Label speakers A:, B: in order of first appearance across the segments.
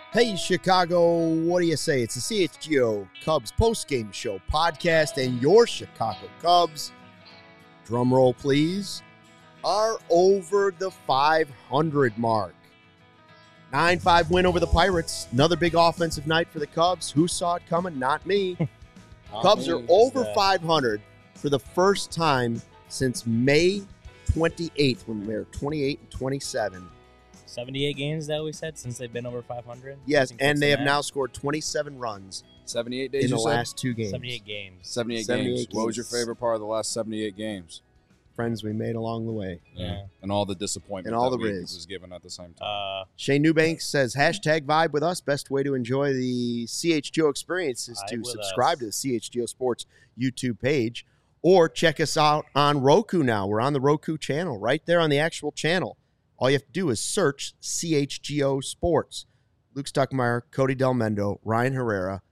A: Hey, Chicago, what do you say? It's the CHGO Cubs postgame show podcast, and your Chicago Cubs, drum roll please, are over the 500 mark. 9-5 win over the Pirates. Another big offensive night for the Cubs. Who saw it coming? Not me. Cubs are over 500 for the first time since May 28th when they were 28-27.
B: 78 games that we said since they've been over 500.
A: Yes, and they have now scored 27 runs
C: 78 days
A: in the last two games.
B: 78 games.
C: 78
A: 78
C: games. What was your
A: games.
C: favorite part of the last 78 games?
A: Friends we made along the way.
B: Yeah.
C: And all the disappointment
A: And all
C: that
A: the
C: we
A: riz.
C: was given at the same time.
A: Shane Newbanks says, hashtag vibe with us. Best way to enjoy the CHGO experience is to
B: Vibe with
A: subscribe
B: us.
A: to the CHGO Sports YouTube page or check us out on Roku now. We're on the Roku channel, right there on the actual channel. All you have to do is search CHGO Sports. Luke Stuckmeyer, Cody Del Mendo, Ryan Herrera,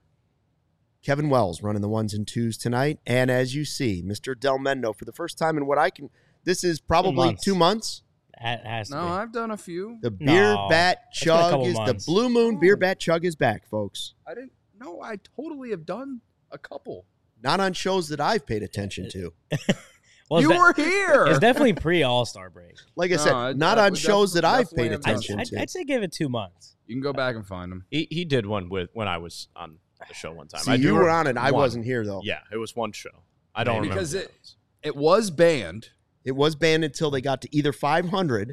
A: Kevin Wells running the ones and twos tonight. And as you see, Mr. Del Mendo, for the first time in what I can, this is probably 2 months.
B: Has to
C: No,
B: be.
C: I've done a few.
A: The beer
B: No,
A: bat
B: it's been a
A: chug
B: couple
A: is the
B: months.
A: Blue Moon beer bat chug is back, folks.
C: I didn't. No, I totally have done a couple.
A: Not on shows that I've paid attention to.
B: Well,
C: You were here.
B: It's definitely pre-All-Star break.
A: Like I
C: No,
A: said,
C: I-
A: not
C: I
A: on
C: would
A: shows that I've
C: definitely
A: paid
C: have done
A: attention to.
B: I'd say give it 2 months.
C: You can go back and find them.
D: He did one when I was on the show one time.
A: See,
D: I do
A: you were
D: re-
A: on it. I
D: one.
A: wasn't here, though.
D: Yeah, it was one show. I don't remember.
C: Because
D: what
C: it-
D: was.
C: It was banned.
A: It was banned until they got to either 500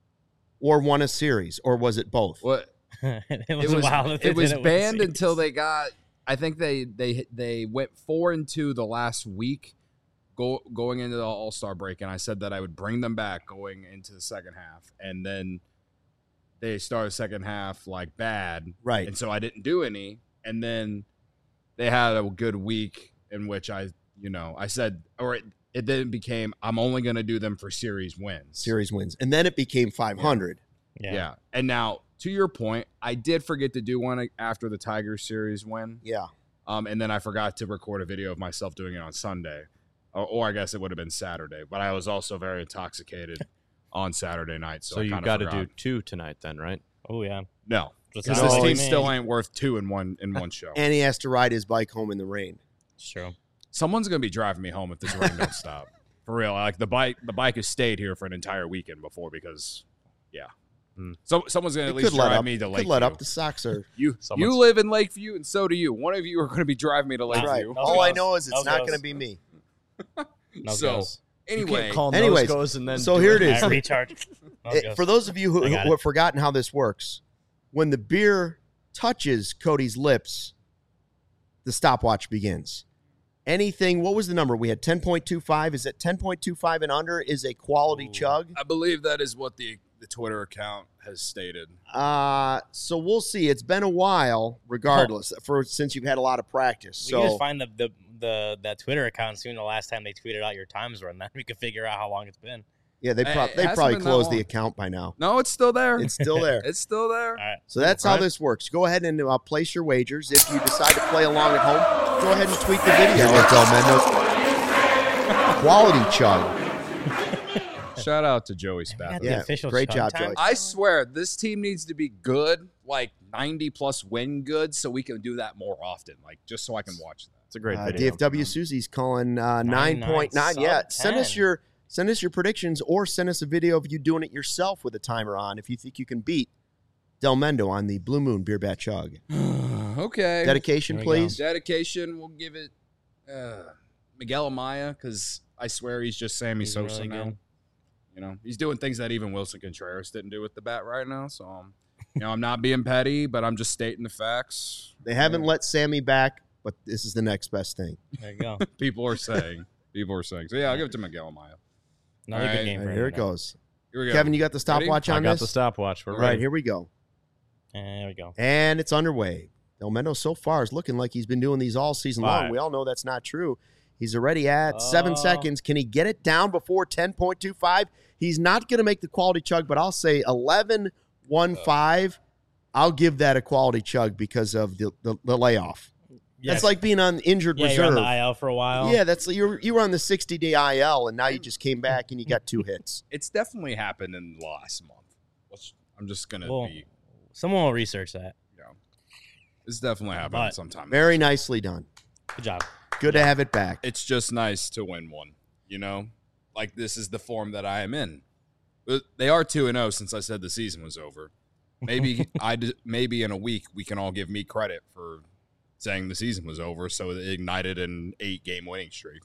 A: or won a series, or was it both?
C: What?
B: it was wild. that they
C: It was
B: did with the
C: banned
B: series.
C: until they got. I think they went 4-2 the last week, going into the All-Star break, and I said that I would bring them back going into the second half, and then they started second half like bad,
A: Right.
C: and so I didn't do any, and then they had a good week in which I said, or it then became I'm only going to do them for series wins.
A: Series wins. And then it became 500.
C: Yeah. And now, to your point, I did forget to do one after the Tigers series win.
A: Yeah.
C: And then I forgot to record a video of myself doing it on Sunday. Or I guess it would have been Saturday. But I was also very intoxicated on Saturday night. So,
D: So
C: I
D: you
C: kinda
D: got to
C: forgot.
D: do 2 tonight then, right?
B: Oh, yeah.
C: No.
B: Just
C: Because
B: not
C: this
B: like
C: team
B: me.
C: still ain't worth 2 in one show.
A: And he has to ride his bike home in the rain.
B: It's true.
C: Someone's going to be driving me home if this rain don't stop. For real. Like the bike has stayed here for an entire weekend before because, yeah. So someone's going to
A: It
C: at least
A: could let
C: drive
A: up.
C: me to
A: Could
C: Lakeview.
A: let up. The Sox are.
C: You
D: Someone's-
C: live in Lakeview, and so do you. One of you are going to be driving me to Lakeview.
A: Right.
B: No
A: All I
B: goes.
A: know is it's
B: No
A: not
B: goes.
A: going to be me.
B: No
C: So,
B: goes.
C: anyway,
A: Anyways,
D: goes and then
A: so
D: do
A: here it is.
B: Recharge. No goes.
A: For those of you who
B: I got
A: who have forgotten how this works, when the beer touches Cody's lips, the stopwatch begins. Anything, what was the number? We had 10.25. Is it 10.25 and under is a quality
B: Ooh.
A: chug?
C: I believe that is what the Twitter account has stated.
A: So we'll see. It's been a while, regardless, since you've had a lot of practice.
B: We can just
A: So
B: find that Twitter account soon. The last time they tweeted out your times were, and then we could figure out how long it's been.
A: yeah, they
C: It hasn't
A: probably
C: been that
A: closed the
C: long.
A: account by now.
C: No, it's still there.
A: It's still there.
C: It's still there.
B: All right.
A: So that's how
D: Right.
A: this works. Go ahead and place your wagers. If you decide to play along at home, go ahead and tweet the video. At Del Mendo. Quality chug.
C: Shout out to Joey
B: The
C: Spath.
A: Yeah,
B: official
A: great
B: chug
A: job,
B: time.
A: Joey.
C: I swear, this team needs to be good, like 90-plus win good, so we can do that more often, like just so I can watch that.
D: It's a great video.
A: DFW Susie's calling
B: 9.9,
A: 9.9. Yeah,
B: sub
A: send us
B: 10.
A: your predictions or send us a video of you doing it yourself with a timer on if you think you can beat Del Mendo on the Blue Moon Beer Bat Chug.
C: Okay.
A: Dedication,
B: Here we go.
A: please.
C: Dedication, we'll give it Miguel Amaya, because I swear he's just Sammy
B: He's
C: Sosa
B: really
C: now.
B: good.
C: You know, he's doing things that even Wilson Contreras didn't do with the bat right now. So, I'm not being petty, but I'm just stating the facts.
A: They haven't let Sammy back, but this is the next best thing.
B: There you go.
C: People are saying. So, yeah, I'll give it to Miguel Amaya.
B: Another
C: All right.
B: good game.
A: All
B: for
A: right, here
B: him
A: it
B: now.
A: goes.
C: Here we go.
A: Kevin, you got the stopwatch
D: I
A: on
D: got
A: this?
D: the stopwatch. We're
A: All right,
D: ready.
A: here we go.
B: And there we go.
A: And it's underway. Del Mendo so far is looking like he's been doing these all season long.
D: 5.
A: We all know that's not true. He's already at 7
B: Oh.
A: seconds. Can he get it down before 10.25? He's not going to make the quality chug, but I'll say 11.15. I'll give that a quality chug because of the layoff.
B: Yeah,
A: That's like being on injured
B: yeah, you're
A: reserve.
B: on the IL for a while.
A: Yeah, that's you were on the 60-day IL, and now you just came back and you got 2 hits.
C: It's definitely happened in the last month. I'm just going to
B: Well,
C: be.
B: someone will research that.
C: Yeah. It's definitely happening
B: But-
C: sometime.
A: Very nicely done.
B: Good job.
A: Good to have it back.
C: It's just nice to win one, you know? Like, this is the form that I am in. But they are 2-0 since I said the season was over. Maybe maybe in a week we can all give me credit for saying the season was over, so it ignited an 8-game winning streak.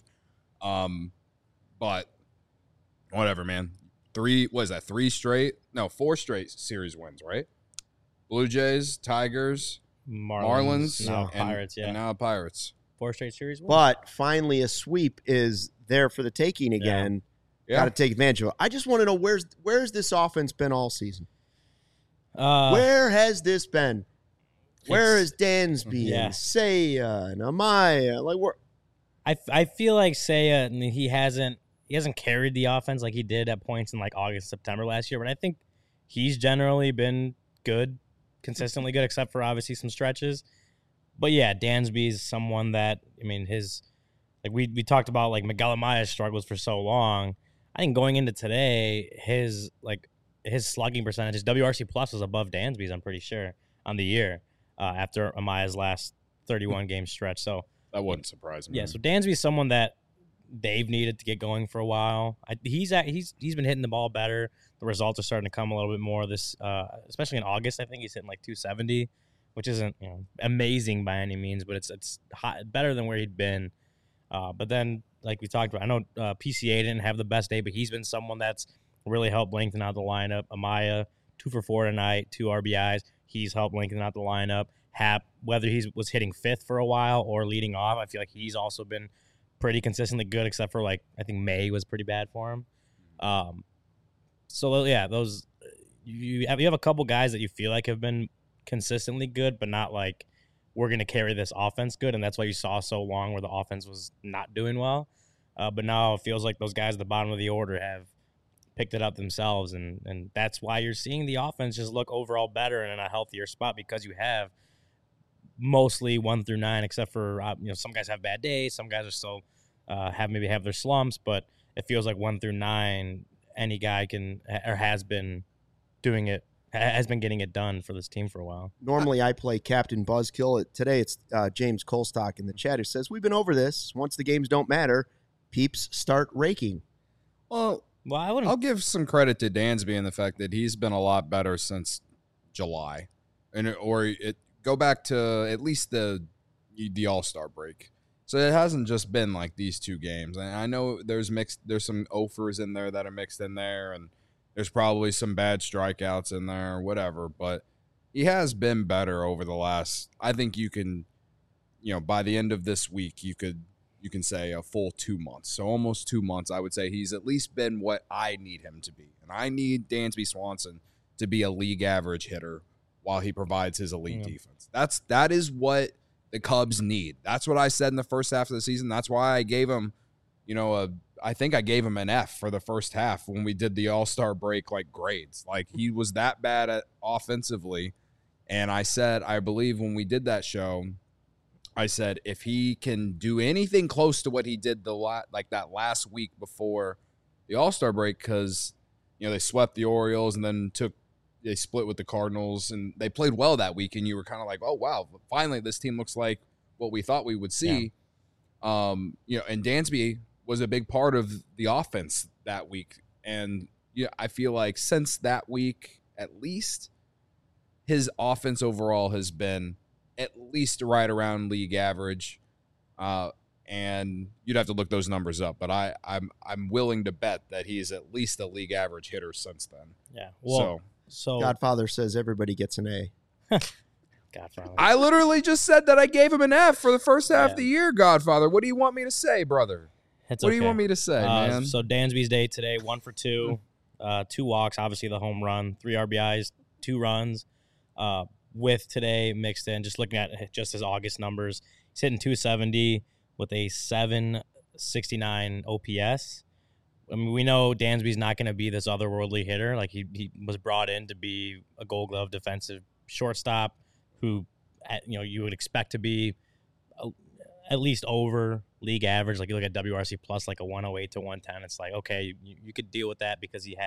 C: But whatever, man. 4 straight series wins, right? Blue Jays, Tigers, Marlins,
B: now
C: and
B: Pirates. Yeah,
C: and now Pirates.
B: 4 straight series wins.
A: But finally, a sweep is there for the taking again.
C: Yeah.
A: Got to take advantage of it. I just want to know where's this offense been all season? Where has this been? Where is Dansby
B: Yeah.
A: and Seiya and Amaya? Like, where?
B: I feel like Seiya, he hasn't carried the offense like he did at points in like August, September last year. But I think he's generally been good, consistently good, except for obviously some stretches. But yeah, Dansby's someone that, I mean, we talked about like Miguel Amaya's struggles for so long. I think going into today, his slugging percentage, his WRC plus was above Dansby's, I'm pretty sure, on the year after Amaya's last 31 game stretch. So
C: That wouldn't surprise me.
B: yeah, so Dansby's someone that they've needed to get going for a while. He's been hitting the ball better. The results are starting to come a little bit more this, especially in August. I think he's hitting like 270, which isn't amazing by any means, but it's hot, better than where he'd been. But then, like we talked about, I know PCA didn't have the best day, but he's been someone that's really helped lengthen out the lineup. Amaya, 2 for 4 tonight, 2 RBIs. He's helped lengthen out the lineup. Hap, whether he was hitting 5th for a while or leading off, I feel like he's also been pretty consistently good, except for like I think May was pretty bad for him. So yeah, those you have a couple guys that you feel like have been consistently good, but not like we're going to carry this offense good, and that's why you saw so long where the offense was not doing well. But now it feels like those guys at the bottom of the order have picked it up themselves, and that's why you're seeing the offense just look overall better and in a healthier spot, because you have mostly 1 through 9, except for some guys have bad days, some guys are still have their slumps, but it feels like 1 through 9, any guy can or has been getting it done for this team for a while.
A: Normally, I play Captain Buzzkill. Today, it's James Colstock in the chat who says, we've been over this. Once the games don't matter, peeps start raking.
C: Well, I'll give some credit to Dansby in the fact that he's been a lot better since July, go back to at least the All-Star break. So it hasn't just been like these 2 games. And I know there's some offers in there that are mixed in there, and there's probably some bad strikeouts in there, whatever. But he has been better over the last. I think you can, by the end of this week, you can say a full 2 months. So almost 2 months, I would say he's at least been what I need him to be. And I need Dansby Swanson to be a league average hitter while he provides his elite defense. That is what the Cubs need. That's what I said in the first half of the season. That's why I gave him, I think I gave him an F for the first half when we did the All-Star break grades. Like, he was that bad at offensively. And I said, I believe when we did that show, I said, if he can do anything close to what he did that last week before the All-Star break, because they swept the Orioles and then they split with the Cardinals, and they played well that week, and you were kind of like, oh wow, finally this team looks like what we thought we would see. Yeah. And Dansby was a big part of the offense that week, and I feel like since that week, at least, his offense overall has been at least right around league average, and you'd have to look those numbers up. But I'm willing to bet that he is at least a league average hitter since then.
B: Yeah. Well, so
A: Godfather says everybody gets an A.
B: Godfather.
C: I literally just said that I gave him an F for the first half of the year, Godfather. What do you want me to say, brother? What do you want me to say, man?
B: So Dansby's day today, 1 for 2, 2 walks, obviously the home run, 3 RBIs, 2 runs. With today mixed in, just looking at just his August numbers, he's hitting 270 with a 769 OPS. I mean, we know Dansby's not going to be this otherworldly hitter. Like, he was brought in to be a Gold Glove defensive shortstop who, you would expect to be at least over league average. Like, you look at WRC plus, like a 108 to 110. It's like, okay, you could deal with that because he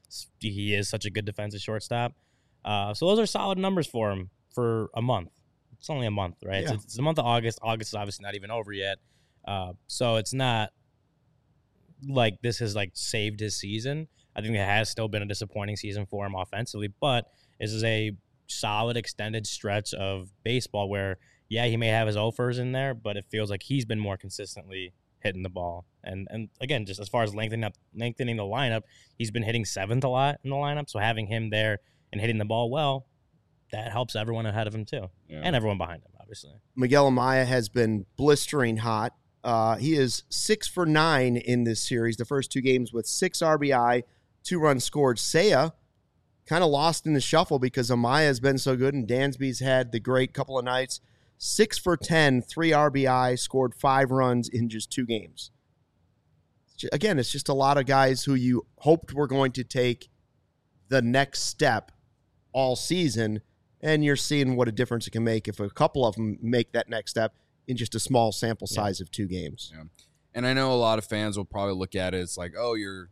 B: is such a good defensive shortstop. So those are solid numbers for him for a month. It's only a month, right?
A: Yeah.
B: It's the month of August. August is obviously not even over yet. So it's not like this has like saved his season. I think it has still been a disappointing season for him offensively, but this is a solid extended stretch of baseball where, yeah, he may have his offers in there, but it feels like he's been more consistently hitting the ball. And again, just as far as lengthening the lineup, he's been hitting seventh a lot in the lineup. So having him there and hitting the ball well, that helps everyone ahead of him too, and everyone behind him, obviously.
A: Miguel Amaya has been blistering hot. He is 6 for 9 in this series, the first 2 games with 6 RBI, 2 runs scored. Seiya kind of lost in the shuffle because Amaya has been so good, and Dansby's had the great couple of nights. 6 for 10, 3 RBI, scored 5 runs in just 2 games. Again, it's just a lot of guys who you hoped were going to take the next step all season, and you're seeing what a difference it can make if a couple of them make that next step in just a small sample size of 2 games.
C: Yeah. And I know a lot of fans will probably look at it as like, oh,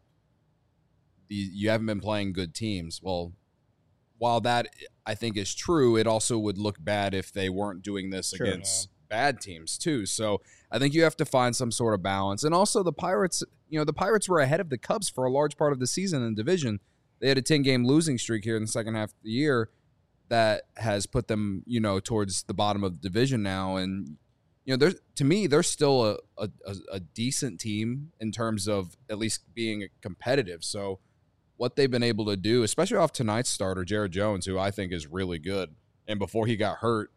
C: you haven't been playing good teams. Well, while that I think is true, it also would look bad if they weren't doing this against bad teams too. So I think you have to find some sort of balance. And also the Pirates were ahead of the Cubs for a large part of the season in the division. They had a 10-game losing streak here in the second half of the year that has put them, towards the bottom of the division now. And, to me, they're still a decent team in terms of at least being competitive. So what they've been able to do, especially off tonight's starter, Jared Jones, who I think is really good. And before he got hurt,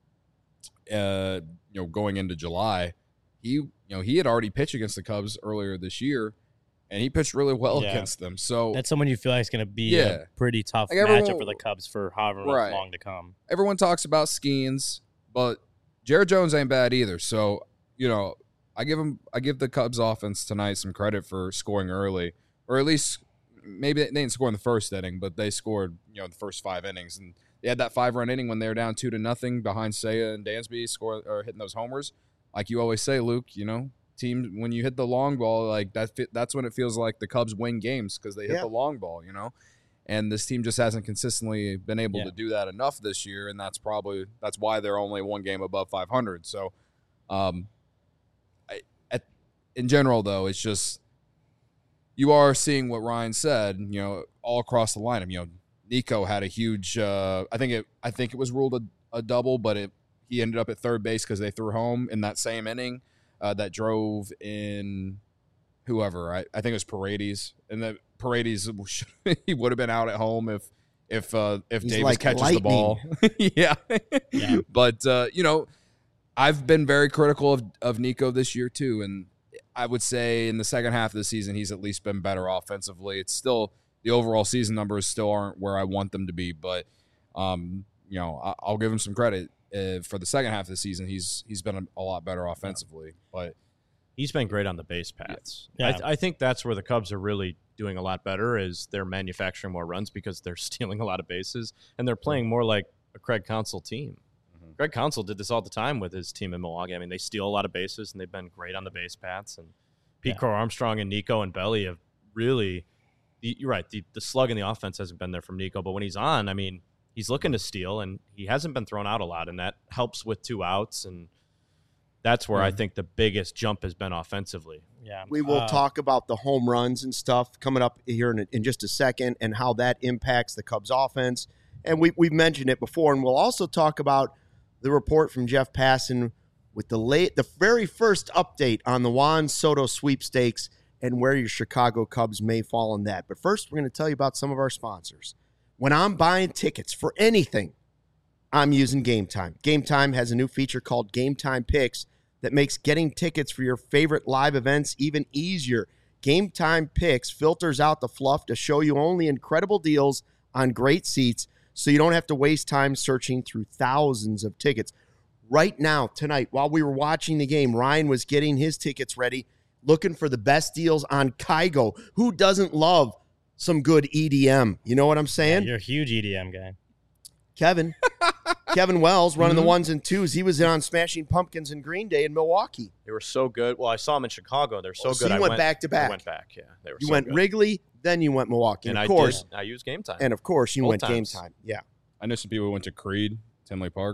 C: going into July, he had already pitched against the Cubs earlier this year, and he pitched really well against them. So
B: that's someone you feel like is going to be a pretty tough matchup for the Cubs for however long to come.
C: Everyone talks about Skeens, but Jared Jones ain't bad either. So, I give the Cubs offense tonight some credit for scoring early, or at least maybe they didn't score in the first inning, but they scored, the first 5 innings. And they had that 5-run inning when they were down 2-0 behind Seiya and Dansby hitting those homers. Like you always say, Luke, teams, when you hit the long ball, like that's when it feels like the Cubs win games because they hit the long ball, And this team just hasn't consistently been able to do that enough this year, and that's why they're only 1 game above 500. So, in general, though, it's just you are seeing what Ryan said, all across the lineup. Nico had a huge. I think it was ruled a double, but he ended up at third base because they threw home in that same inning. That drove in whoever. I think it was Paredes, and that Paredes he would have been out at home if Davis
A: like
C: catches
A: lightning.
C: the ball. yeah. But I've been very critical of Nico this year too, and I would say in the second half of the season he's at least been better offensively. It's still the overall season numbers still aren't where I want them to be, but I'll give him some credit. For the second half of the season, he's been a lot better offensively, but
D: he's been great on the base paths.
B: Yeah.
D: I think that's where the Cubs are really doing a lot better is they're manufacturing more runs because they're stealing a lot of bases, and they're playing more like a Craig Counsell team. Mm-hmm. Craig Counsell did this all the time with his team in Milwaukee. I mean, they steal a lot of bases, and they've been great on the base paths. And Pete Crow Armstrong and Nico and Belly have really – you're right, the slug in the offense hasn't been there from Nico, but when he's on, I mean – he's looking to steal, and he hasn't been thrown out a lot, and that helps with 2 outs, and that's where I think the biggest jump has been offensively.
B: Yeah,
A: we will talk about the home runs and stuff coming up here in just a second and how that impacts the Cubs offense, and we've mentioned it before, and we'll also talk about the report from Jeff Passan with the very first update on the Juan Soto sweepstakes and where your Chicago Cubs may fall in that. But first, we're going to tell you about some of our sponsors. When I'm buying tickets for anything, I'm using Game Time. Game Time has a new feature called Game Time Picks that makes getting tickets for your favorite live events even easier. Game Time Picks filters out the fluff to show you only incredible deals on great seats so you don't have to waste time searching through thousands of tickets. Right now, tonight, while we were watching the game, Ryan was getting his tickets ready, looking for the best deals on Kygo. Who doesn't love some good EDM? You know what I'm saying?
B: You're a huge EDM guy.
A: Kevin Wells running the 1s and 2s. He was in on Smashing Pumpkins and Green Day in Milwaukee.
D: They were so good. Well, I saw them in Chicago. They're so good.
A: So you went back to back.
D: I went back, yeah. They were
A: you
D: so
A: went
D: good.
A: Wrigley, then you went Milwaukee.
D: And
A: of course,
D: I used Game Time.
A: And of course, you
D: Both
A: went
D: times.
A: Game Time. Yeah.
C: I know some people who went to Creed, Tinley Park.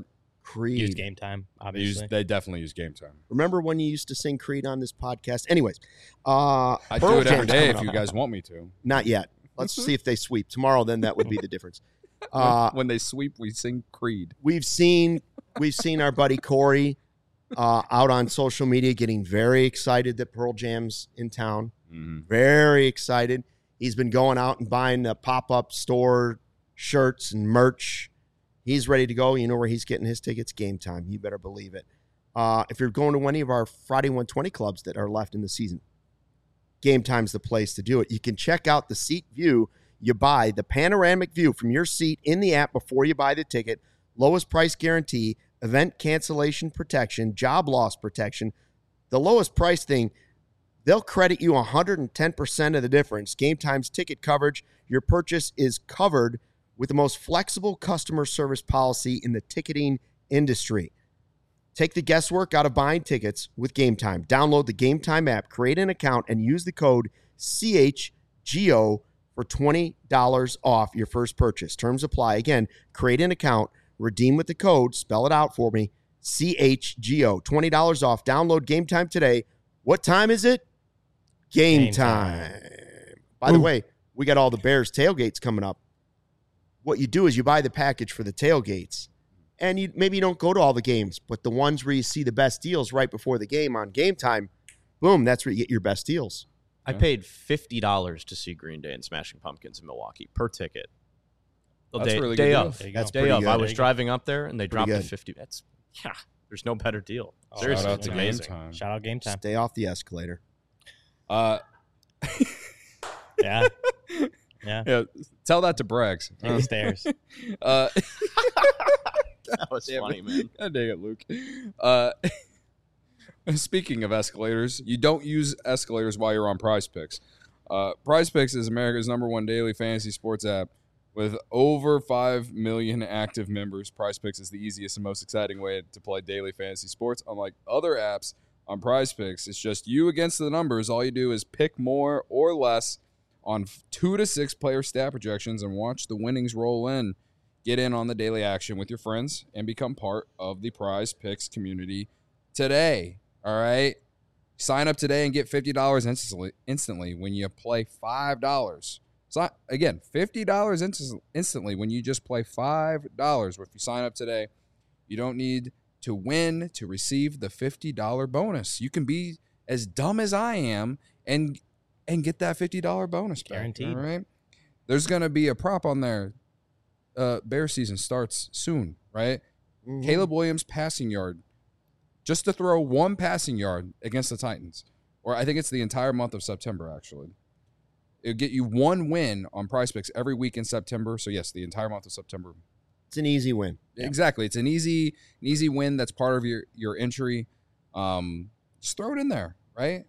A: Creed.
B: Use Game Time, obviously.
C: They definitely use Game Time.
A: Remember when you used to sing Creed on this podcast? Anyways,
C: I do
A: Pearl
C: it every
A: Jam's
C: day
A: coming
C: if you
A: up.
C: guys want me to.
A: Not yet. Let's see if they sweep tomorrow. Then that would be the difference.
C: When they sweep, we sing Creed.
A: We've seen our buddy Corey out on social media getting very excited that Pearl Jam's in town. Very excited. He's been going out and buying the pop-up store shirts and merch. He's ready to go. You know where he's getting his tickets? Game Time. You better believe it. If you're going to any of our Friday 120 clubs that are left in the season, Game Time's the place to do it. You can check out the seat view you buy, the panoramic view from your seat in the app before you buy the ticket, lowest price guarantee, event cancellation protection, job loss protection. The lowest price thing, they'll credit you 110% of the difference. Game Time's ticket coverage, your purchase is covered with the most flexible customer service policy in the ticketing industry. Take the guesswork out of buying tickets with Game Time. Download the Game Time app, create an account, and use the code CHGO for $20 off your first purchase. Terms apply. Again, create an account, redeem with the code, spell it out for me, CHGO, $20 off. Download Game Time today. What time is it? Game time. By the way, we got all the Bears tailgates coming up. What you do is you buy the package for the tailgates, and maybe you don't go to all the games, but the ones where you see the best deals right before the game on Game Time, boom, that's where you get your best deals.
D: I paid $50 to see Green Day and Smashing Pumpkins in Milwaukee per ticket.
C: That's
D: day,
C: a really
D: day
C: good
D: of.
C: deal.
A: That's
D: Day
A: pretty
D: of.
A: good.
D: I was driving up there and they dropped
A: Pretty
D: to
A: good.
D: 50. There's no better deal.
B: Oh,
D: Seriously,
C: Shout out
D: it's
C: to Game
D: amazing.
C: Time.
B: Shout out Game Time.
A: Stay off the escalator.
B: Yeah. Yeah.
C: Yeah, tell that to Braggs.
B: Take the stairs.
D: That was funny, man.
C: God dang it, Luke. Speaking of escalators, you don't use escalators while you're on Prize Picks. Prize Picks is America's #1 daily fantasy sports app. With over 5 million active members, Prize Picks is the easiest and most exciting way to play daily fantasy sports. Unlike other apps on Prize Picks, it's just you against the numbers. All you do is pick more or less on 2 to 6 player stat projections and watch the winnings roll in. Get in on the daily action with your friends and become part of the Prize Picks community today. All right? Sign up today and get $50 instantly when you play $5. So again, $50 instantly when you just play $5. If you sign up today, you don't need to win to receive the $50 bonus. You can be as dumb as I am and get that $50 bonus back.
B: Guaranteed.
C: All right? There's going to be a prop on there. Bear season starts soon, right?
A: Mm-hmm.
C: Caleb Williams passing yard, just to throw one passing yard against the Titans. Or I think it's the entire month of September, actually. It'll get you one win on Prize Picks every week in September. So, yes, the entire month of September.
A: It's an easy win.
C: Exactly. It's an easy win that's part of your entry. Just throw it in there, right?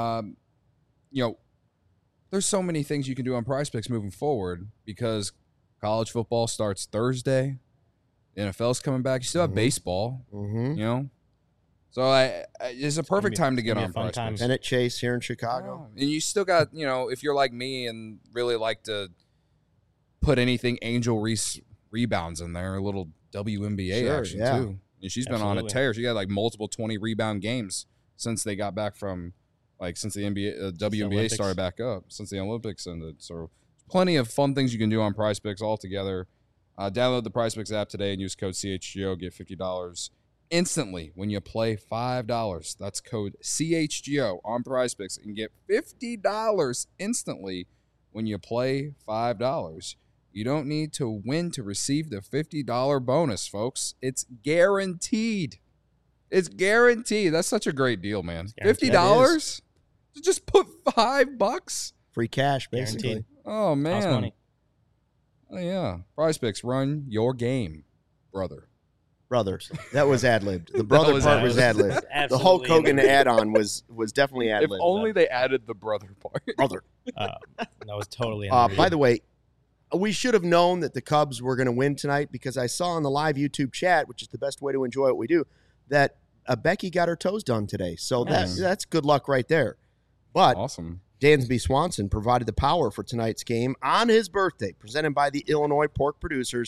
C: There's so many things you can do on Prize Picks moving forward because college football starts Thursday. The NFL's coming back. You still have baseball, So it's a perfect time to get on Prize Picks.
A: Bennett Chase here in Chicago.
C: And you still got, if you're like me and really like to put anything Angel Reese rebounds in there, a little WNBA action too. And she's been on a tear. She got like multiple 20 rebound games since they got back from, since the WNBA started back up, since the Olympics ended. So plenty of fun things you can do on Prize Picks all together. Download the Prize Picks app today and use code CHGO. Get $50 instantly when you play $5. That's code CHGO on Prize Picks and get $50 instantly when you play $5. You don't need to win to receive the $50 bonus, folks. It's guaranteed. It's guaranteed. That's such a great deal, man. $50 to just put $5.
A: Free cash, basically.
B: Guaranteed.
C: Oh man.
B: House money.
C: Oh yeah. Prize Picks, run your game, brother.
A: Brothers. That was ad-libbed. The brother
C: was
A: part was ad-libbed. The
B: Absolutely
A: Hulk Hogan
B: amazing.
A: add-on was definitely ad-libbed.
C: If only they added the brother part.
A: Brother.
B: That was totally
A: By the way, we should have known that the Cubs were going to win tonight because I saw on the live YouTube chat, which is the best way to enjoy what we do, that Becky got her toes done today. So that's good luck right there. But
C: Awesome.
A: Dansby Swanson provided the power for tonight's game on his birthday, presented by the Illinois Pork Producers.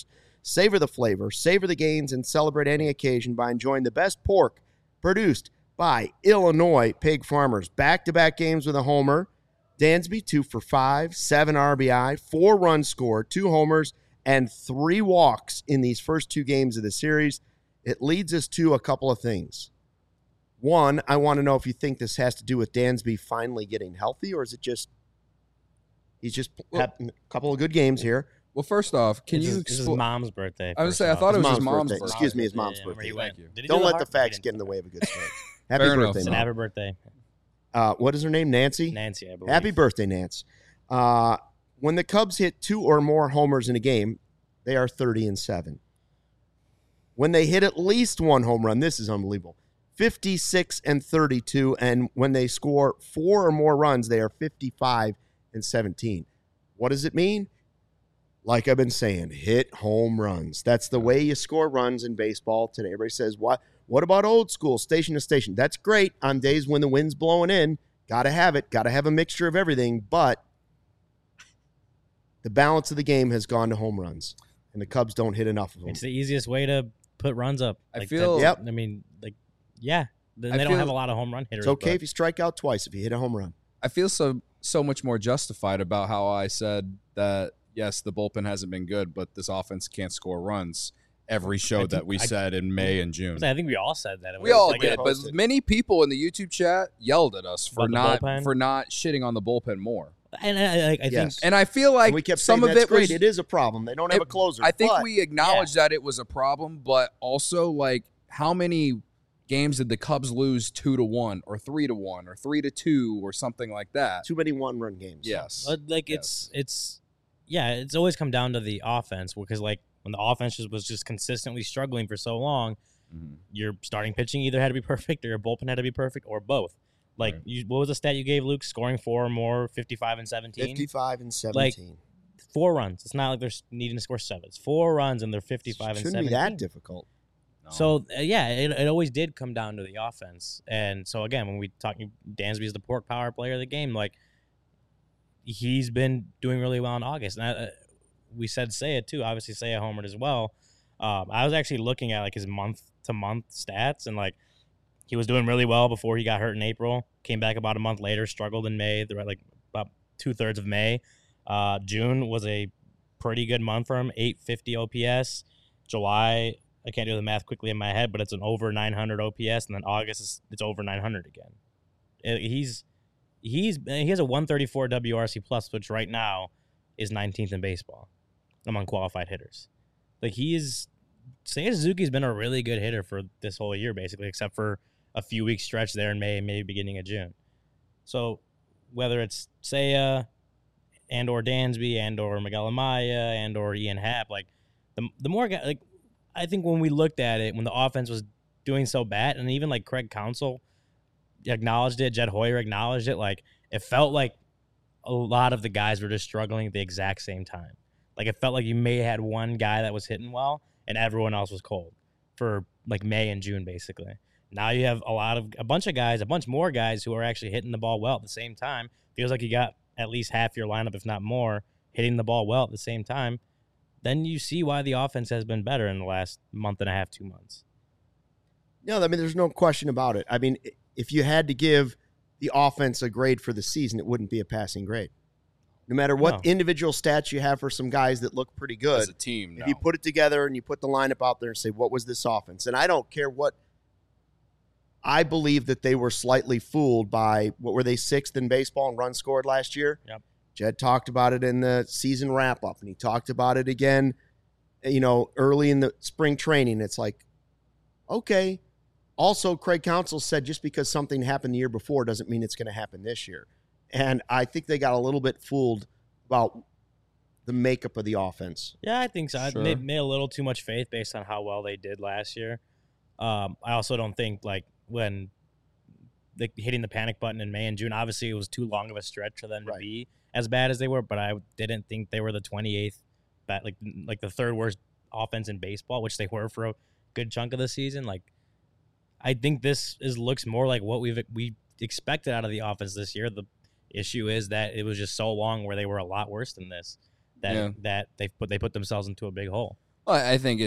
A: Savor the flavor, savor the gains, and celebrate any occasion by enjoying the best pork produced by Illinois pig farmers. Back-to-back games with a homer. Dansby, 2 for 5, 7 RBI, 4 runs scored, 2 homers, and 3 walks in these first 2 games of the series. It leads us to a couple of things. One, I want to know if you think this has to do with Dansby finally getting healthy, or is it just he's just had a couple of good games here.
C: Well, first off, can you
B: This is his mom's birthday.
C: I was
B: first
C: gonna say, I
B: off.
C: thought it was his
A: His
C: mom's
A: birthday.
C: birthday.
A: Excuse me, his mom's
B: Yeah,
A: birthday.
B: where he
C: Thank
B: went.
C: you.
B: Did he
A: Don't
B: do
A: let
B: heart?
A: the facts
B: He
A: get in
B: didn't.
A: the way of a good story. Happy
C: Fair enough.
A: birthday,
B: Said
A: Mom.
B: happy birthday,
A: What is her name? Nancy?
B: Nancy, I believe.
A: Happy birthday, Nance. When the Cubs hit 2 or more homers in a game, they are 30-7. When they hit at least 1 home run, this is unbelievable, 56-32. And when they score 4 or more runs, they are 55-17. What does it mean? Like I've been saying, hit home runs. That's the way you score runs in baseball today. Everybody says, what about old school, station to station? That's great on days when the wind's blowing in. Got to have it. Got to have a mixture of everything. But the balance of the game has gone to home runs, and the Cubs don't hit enough of them.
B: It's the easiest way to put runs up.
C: I
B: Like
C: feel-
B: that-
A: Yep.
B: I mean, like, yeah. They
C: I
B: don't
C: feel-
B: have a lot of home run hitters.
A: It's okay
B: but
A: if you strike out twice if you hit a home run.
C: I feel so much more justified about how I said that. Yes, the bullpen hasn't been good, but this offense can't score runs. Every show
B: think-
C: that we said in May and June.
B: I think we all said that. It
C: We
B: was
C: all
B: like,
C: did, but
A: posted.
C: many people in the YouTube chat yelled at us for
B: About the bullpen?
C: not shitting on the bullpen more.
B: And I think
A: Yes.
C: And I feel like
A: And we kept
C: some
A: saying
C: of
A: that's
C: it was
A: great. It is a problem. They don't have a closer.
C: I think
A: but
C: we acknowledged that it was a problem, but also like how many games did the Cubs lose 2-1 or 3-1 or 3-2 or something like that?
A: too many one-run games.
C: Yes.
B: like
C: Yes.
B: it's always come down to the offense because like when the offense was just consistently struggling for so long,
C: Mhm.
B: your starting pitching either had to be perfect or your bullpen had to be perfect or both. Like
C: Right.
B: what was the stat you gave, Luke? Scoring 4 or more, 55-17.
A: 55-17.
B: 4 runs. It's not like they're needing to score 7. It's 4 runs and they're 55-17.
A: Shouldn't be that difficult.
C: No.
B: So it always did come down to the offense, and so again, when we talk, Dansby's the pork power player of the game. Like he's been doing really well in August, and we said Seiya too. Obviously, Seiya homered as well. I was actually looking at like his month-to-month stats, and like he was doing really well before he got hurt in April. Came back about a month later, struggled in May. Like about 2/3 of May. June was a pretty good month for him, 850 OPS. July, I can't do the math quickly in my head, but it's an over 900 OPS, and then August it's over 900 again. He has a 134 WRC plus, which right now is 19th in baseball among qualified hitters. Like Seiya Suzuki's been a really good hitter for this whole year, basically, except for a few weeks stretch there in May and maybe beginning of June. So whether it's Seiya and or Dansby and or Miguel Amaya and or Ian Happ, like the more guys, like I think when we looked at it, when the offense was doing so bad, and even like Craig Counsell acknowledged it, Jed Hoyer acknowledged it, like it felt like a lot of the guys were just struggling at the exact same time. Like it felt like you may have had one guy that was hitting well and everyone else was cold for like May and June, basically. Now you have a bunch more guys who are actually hitting the ball well at the same time. Feels like you got at least half your lineup, if not more, hitting the ball well at the same time. Then you see why the offense has been better in the last month and a half, 2 months.
A: No, I mean, there's no question about it. I mean, if you had to give the offense a grade for the season, it wouldn't be a passing grade. No matter what
B: No.
A: individual stats you have for some guys that look pretty good,
C: As a team,
A: if you put it together and you put the lineup out there and say, what was this offense? And I don't care what – I believe that they were slightly fooled by – what were they, 6th in baseball in runs scored last year?
B: Yep.
A: Jed talked about it in the season wrap-up, and he talked about it again, early in the spring training. It's like, okay. Also, Craig Counsell said just because something happened the year before doesn't mean it's going to happen this year. And I think they got a little bit fooled about the makeup of the offense.
B: Yeah, I think so.
C: Sure.
B: I made a little too much faith based on how well they did last year. I also don't think like when hitting the panic button in May and June, obviously it was too long of a stretch for them to
A: Right.
B: be as bad as they were, but I didn't think they were the 28th, like the third worst offense in baseball, which they were for a good chunk of the season. Like I think looks more like what we expected out of the offense this year. The issue is that it was just so long where they were a lot worse than this that they put themselves into a big hole.
C: I think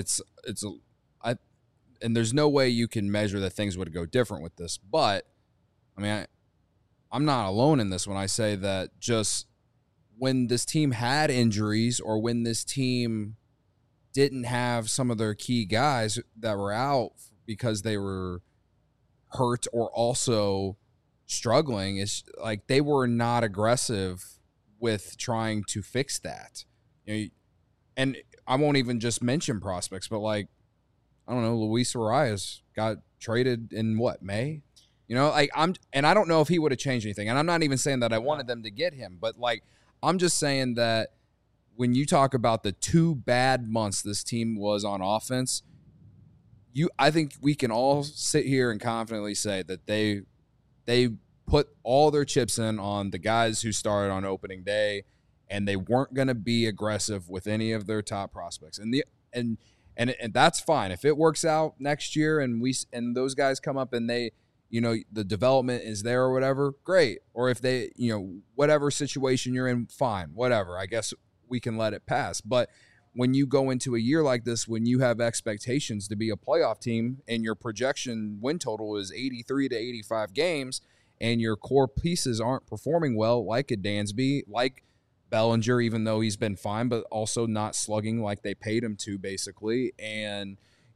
C: and there's no way you can measure that things would go different with this. But I mean, I'm not alone in this when I say that just when this team had injuries or when this team didn't have some of their key guys that were out because they were hurt or also struggling, it's like they were not aggressive with trying to fix that. And I won't even just mention prospects, but like, I don't know, Luis Arias got traded in May? I don't know if he would have changed anything. And I'm not even saying that I wanted them to get him, but like, I'm just saying that when you talk about the 2 bad months this team was on offense, I think we can all sit here and confidently say that they put all their chips in on the guys who started on opening day, and they weren't going to be aggressive with any of their top prospects. And that's fine. If it works out next year and those guys come up and they, the development is there or whatever, great. Or if they, whatever situation you're in, fine, whatever. I guess we can let it pass. But when you go into a year like this, when you have expectations to be a playoff team and your projection win total is 83 to 85 games and your core pieces aren't performing well, like a Dansby, like Bellinger, even though he's been fine, but also not slugging like they paid him to, basically. And,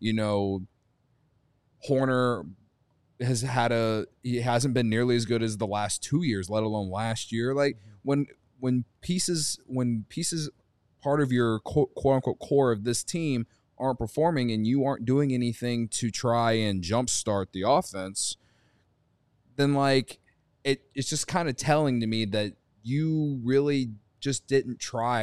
C: Horner he hasn't been nearly as good as the last 2 years, let alone last year. Like when pieces part of your quote unquote core of this team aren't performing and you aren't doing anything to try and jumpstart the offense, then like it's just kind of telling to me that you really just didn't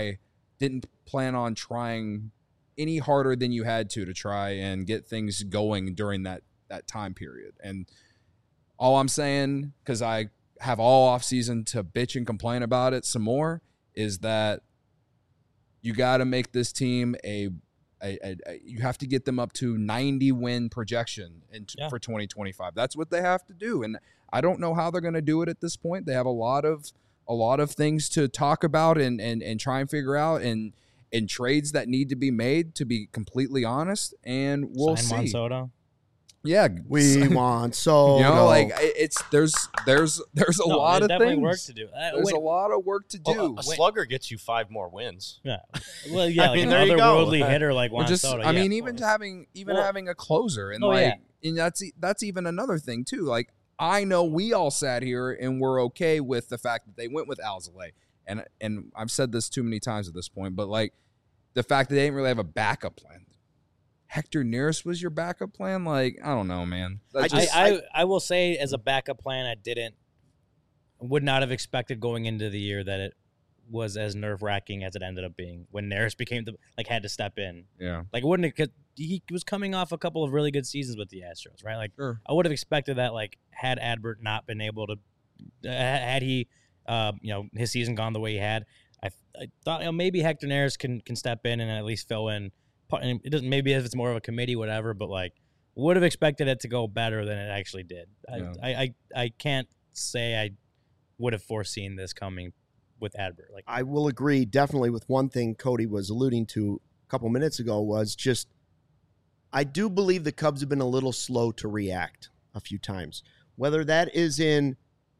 C: plan on trying any harder than you had to try and get things going during that time period. And all I'm saying, because I have all off season to bitch and complain about it some more, is that you got to make this team you have to get them up to 90 win projection for 2025. That's what they have to do. And I don't know how they're going to do it at this point. They have a lot of things to talk about and try and figure out and trades that need to be made, to be completely honest. And we'll
B: Sign
C: see.
B: Soto.
C: Yeah,
A: we want so
C: there's a lot of things.
B: Work to do.
C: There's a lot of work to do.
D: A slugger gets you 5 more wins.
B: Yeah, well, yeah, like
D: there you go.
B: Otherworldly hitter like Juan Soto.
C: Even having a closer and and that's even another thing too. Like I know we all sat here and we're okay with the fact that they went with Alzolay, and I've said this too many times at this point, but like the fact that they didn't really have a backup plan. Hector Neris was your backup plan? Like, I don't know, man.
B: I will say as a backup plan, would not have expected going into the year that it was as nerve-wracking as it ended up being when Neris became had to step in.
C: Yeah.
B: Like, he was coming off a couple of really good seasons with the Astros, right? Like,
C: sure.
B: I would have expected that, like, had Adbert not been able to, had he, his season gone the way he had, I thought maybe Hector Neris can step in and at least fill in. It doesn't. Maybe if it's more of a committee, whatever. But like, would have expected it to go better than it actually did. Yeah. I can't say I would have foreseen this coming with Adbert. Like,
A: I will agree definitely with one thing Cody was alluding to a couple minutes ago was just I do believe the Cubs have been a little slow to react a few times. Whether that is in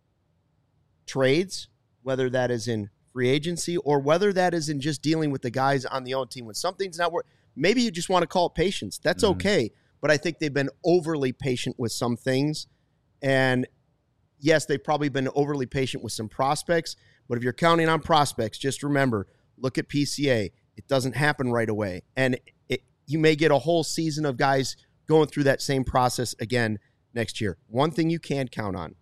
A: trades, whether that is in free agency, or whether that is in just dealing with the guys on the own team when something's not working. Maybe you just want to call it patience. That's okay. But I think they've been overly patient with some things. And yes, they've probably been overly patient with some prospects. But if you're counting on prospects, just remember, look at PCA. It doesn't happen right away. And you may get a whole season of guys going through that same process again next year. One thing you can count on.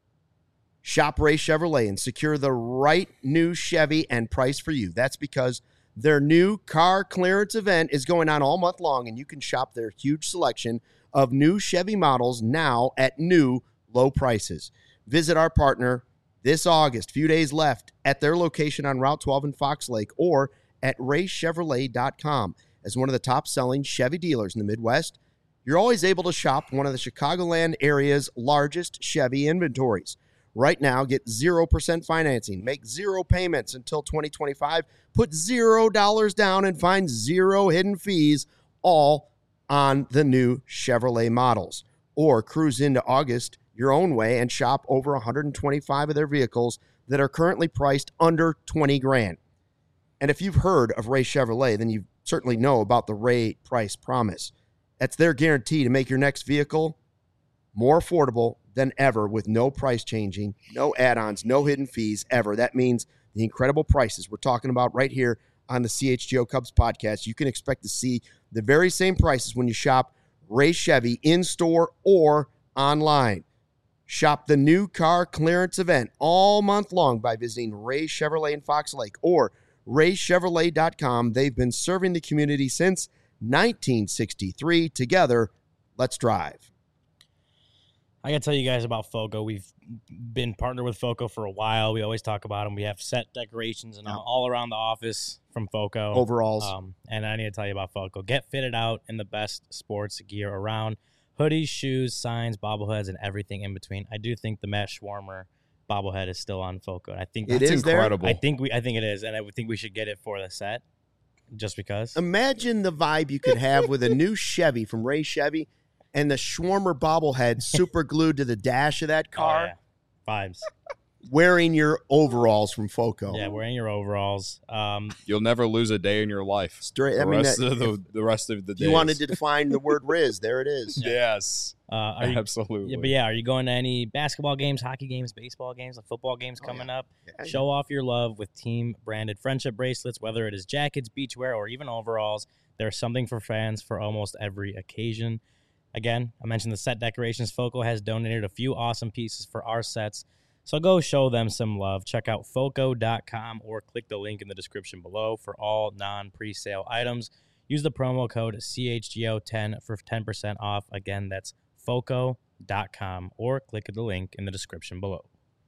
A: Shop Ray Chevrolet and secure the right new Chevy and price for you. That's because their new car clearance event is going on all month long, and you can shop their huge selection of new Chevy models now at new low prices. Visit our partner this August, few days left, at their location on Route 12 in Fox Lake or at raychevrolet.com. As one of the top-selling Chevy dealers in the Midwest, you're always able to shop one of the Chicagoland area's largest Chevy inventories. Right now, get 0% financing. Make 0 payments until 2025. Put $0 down and find 0 hidden fees, all on the new Chevrolet models. Or cruise into August your own way and shop over 125 of their vehicles that are currently priced under 20 grand. And if you've heard of Ray Chevrolet, then you certainly know about the Ray Price Promise. That's their guarantee to make your next vehicle more affordable than ever with no price changing, no add-ons, no hidden fees ever. That means the incredible prices we're talking about right here on the CHGO Cubs podcast. You can expect to see the very same prices when you shop Ray Chevy in-store or online. Shop the new car clearance event all month long by visiting Ray Chevrolet in Fox Lake or raychevrolet.com. They've been serving the community since 1963. Together, let's drive.
B: I got to tell you guys about FOCO. We've been partnered with FOCO for a while. We always talk about them. We have set decorations and all around the office from FOCO.
A: Overalls.
B: And I need to tell you about FOCO. Get fitted out in the best sports gear around. Hoodies, shoes, signs, bobbleheads, and everything in between. I do think the Matt Schwarmer bobblehead is still on FOCO. I think
A: It
C: That's
A: is there?
C: incredible.
B: I think it is, and I would think we should get it for the set, just because.
A: Imagine the vibe you could have with a new Chevy from Ray Chevy and the Schwarmer bobblehead super glued to the dash of that car,
B: Oh, yeah. Vibes.
A: wearing your overalls from FOCO.
B: Yeah, wearing your overalls.
C: You'll never lose a day in your life.
A: Straight. I
C: The
A: mean,
C: rest
A: that,
C: of the rest of the days.
A: you wanted to define the word Riz. There it is.
C: Yes,
B: Are you,
C: absolutely.
B: yeah, but yeah, are you going to any basketball games, hockey games, baseball games, football games coming up?
A: Yeah.
B: Show off your love with team-branded friendship bracelets, whether it is jackets, beachwear, or even overalls. There's something for fans for almost every occasion. Again, I mentioned the set decorations. FOCO has donated a few awesome pieces for our sets, so go show them some love. Check out FOCO.com or click the link in the description below for all non-presale items. Use the promo code CHGO10 for 10% off. Again, that's FOCO.com or click the link in the description below.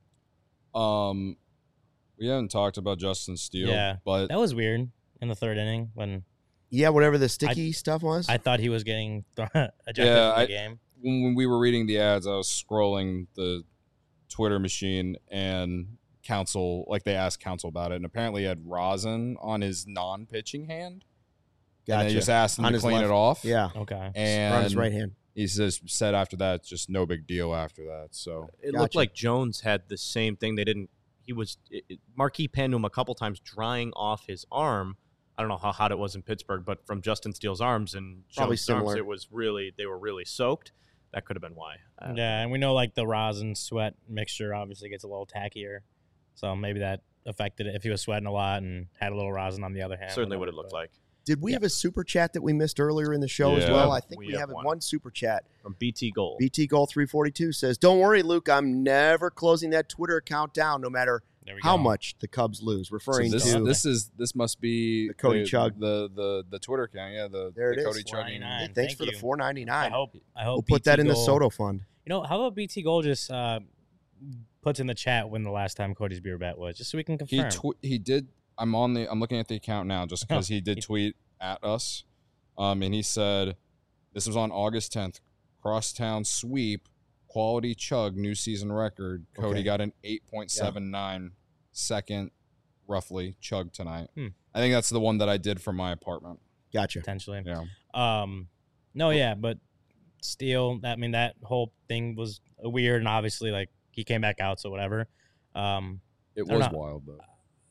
C: We haven't talked about Justin Steele,
B: Yeah.
C: but
B: That was weird in the third inning when
A: Yeah, whatever the sticky stuff was.
B: I thought he was getting ejected
C: Yeah,
B: from the game.
C: when we were reading the ads, I was scrolling the Twitter machine and Counsell, like they asked Counsell about it, and apparently he had rosin on his non-pitching hand. And
A: Gotcha.
C: they just asked him
A: On
C: to
A: his
C: clean
A: left.
C: it off.
A: Yeah,
B: Okay.
C: And
A: on his right hand.
C: he said after that, just no big deal after that. So
D: It
A: Gotcha.
D: looked like Jones had the same thing. They didn't. He was Marquis panned him a couple times, drying off his arm. I don't know how hot it was in Pittsburgh, but from Justin Steele's arms and
A: Probably
D: Jones' arms,
A: similar.
D: it was really they were really soaked. That could have been why.
B: Yeah, and we know like the rosin sweat mixture obviously gets a little tackier, so maybe that affected it if he was sweating a lot and had a little rosin on the other hand.
D: Certainly what it looked like.
A: Did we have a super chat that we missed earlier in the show as
C: Yeah.
A: well? I think
D: We
A: we
D: have
A: have
D: one.
A: one super chat.
D: From BT Gold.
A: BT Goal 342 says, "Don't worry, Luke. I'm never closing that Twitter account down, no matter
B: There we
A: how
B: go.
A: much the Cubs lose."
C: So
A: Referring
C: this
A: to
C: this must be
A: The Cody Chug.
C: the Twitter account. Yeah,
A: There it
C: the
A: is.
C: Cody chugging.
B: 499.
A: Thanks
B: Thank
A: for the
B: you.
A: $4.99.
B: I hope
A: We'll put that
B: BT
A: in the
B: Gold-
A: Soto fund.
B: You know, how about BT Gold just puts in the chat when the last time Cody's beer bet was, just so we can confirm.
C: He did. I'm looking at the account now just because he did tweet at us, and he said this was on August 10th. Crosstown sweep, quality chug, new season record. Cody
A: Okay.
C: got an 8.79 second, roughly chug tonight.
B: Hmm.
C: I think that's the one that I did from my apartment.
A: Gotcha.
B: Potentially.
C: Yeah.
B: No, yeah, but Steele, I mean, that whole thing was weird, and obviously, like, he came back out, so whatever.
C: It
B: I
C: was
B: don't know.
C: wild though.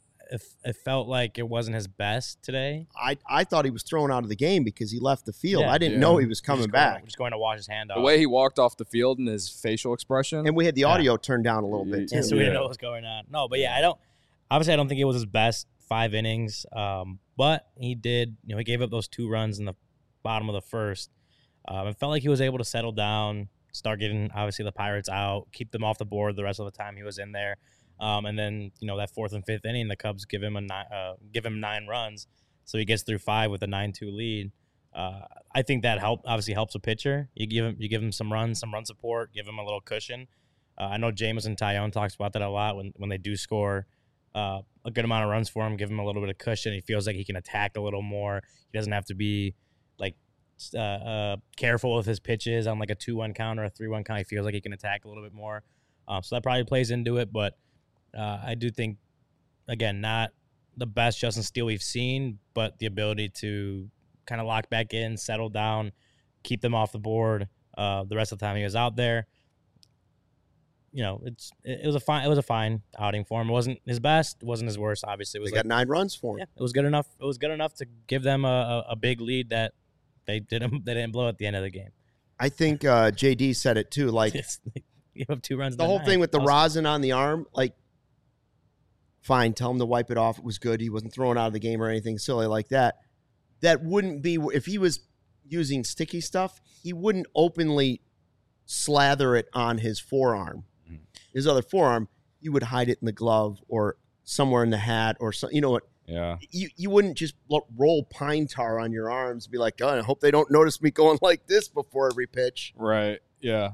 B: It felt like it wasn't his best today.
A: I thought he was thrown out of the game because he left the field.
B: Yeah.
A: I didn't
C: Yeah.
A: know he was coming
B: Just
A: back.
B: Just going to wash his hand off.
C: The way he walked off the field and his facial expression.
A: And we had the
B: Yeah.
A: audio turned down a little bit,
B: Yeah,
A: too.
B: so we didn't
C: Yeah.
B: know what was going on. No, but yeah, I don't think it was his best 5 innings. But he did, he gave up those 2 runs in the bottom of the first. It felt like he was able to settle down, start getting obviously the Pirates out, keep them off the board the rest of the time he was in there. And then, that 4th and 5th inning, the Cubs give him 9 runs. So he gets through 5 with a 9-2 lead. I think that obviously helps a pitcher. You give him some run support, give him a little cushion. I know Jameson Tyone talks about that a lot when they do score a good amount of runs for him, give him a little bit of cushion. He feels like he can attack a little more. He doesn't have to be like careful with his pitches on like a 2-1 count or a 3-1 count. He feels like he can attack a little bit more. So that probably plays into it. But I do think, again, not the best Justin Steele we've seen, but the ability to kind of lock back in, settle down, keep them off the board the rest of the time he was out there. You know, it was a fine outing for him. It wasn't his best, it wasn't his worst. Obviously, it was
A: They got 9 runs for him.
B: yeah, it was good enough. It was good enough to give them a big lead that they didn't blow at the end of the game.
A: I think JD said it too. Like
B: You have 2 runs.
A: the whole thing with the rosin on the arm, like, fine, tell him to wipe it off. It was good. He wasn't thrown out of the game or anything silly like that. That wouldn't be, if he was using sticky stuff, he wouldn't openly slather it on his forearm. His other forearm, he would hide it in the glove or somewhere in the hat or something. You know what?
C: Yeah.
A: You wouldn't just roll pine tar on your arms and be like, oh, I hope they don't notice me going like this before every pitch.
C: Right. Yeah.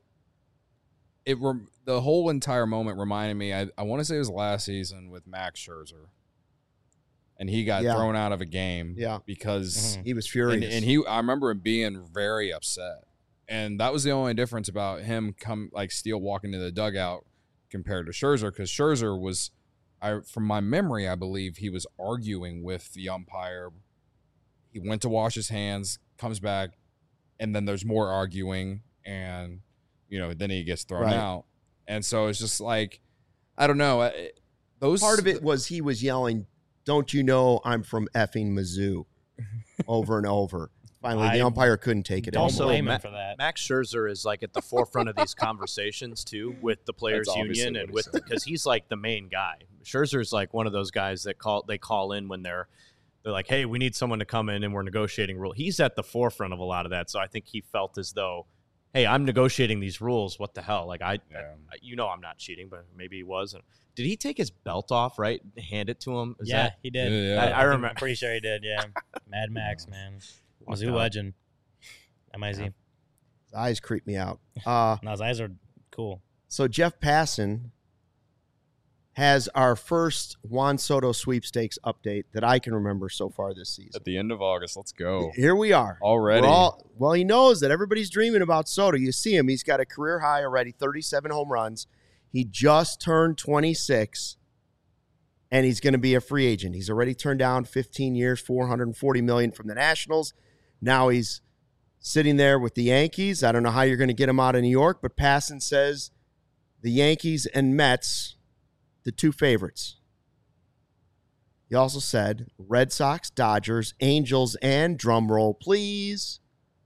C: The whole entire moment reminded me, I want to say it was last season with Max Scherzer. And he got thrown out of a game because
A: he was furious.
C: And I remember him being very upset. And that was the only difference about him Steele walking to the dugout compared to Scherzer, because Scherzer was, from my memory, I believe he was arguing with the umpire. He went to wash his hands, comes back, and then there's more arguing, and then he gets thrown out. And so it's just like, I don't know.
A: Part of it was he was yelling, "Don't you know I'm from effing Mizzou?" over and over. Finally, the umpire couldn't take it.
B: Don't blame him for that.
D: Max Scherzer is like at the forefront of these conversations too, with the players' union and because he's like the main guy. Scherzer is like one of those guys that call in when they're like, hey, we need someone to come in and we're negotiating rule. He's at the forefront of a lot of that, so I think he felt as though, hey, I'm negotiating these rules. What the hell? Like I'm not cheating, but maybe he was. Did he take his belt off? Right, hand it to him.
B: He did.
C: Yeah.
B: I remember. I'm pretty sure he did. Yeah, Mad Max, man. Mizzou legend. MIZ.
A: His eyes creep me out.
B: No, his eyes are cool.
A: So Jeff Passan has our first Juan Soto sweepstakes update that I can remember so far this season.
C: At the end of August, let's go.
A: Here we are.
C: Already.
A: Well, he knows that everybody's dreaming about Soto. You see him. He's got a career high already, 37 home runs. He just turned 26, and he's going to be a free agent. He's already turned down 15 years, $440 million from the Nationals. Now he's sitting there with the Yankees. I don't know how you're going to get him out of New York, but Passan says the Yankees and Mets, the 2 favorites. He also said Red Sox, Dodgers, Angels, and drumroll, please,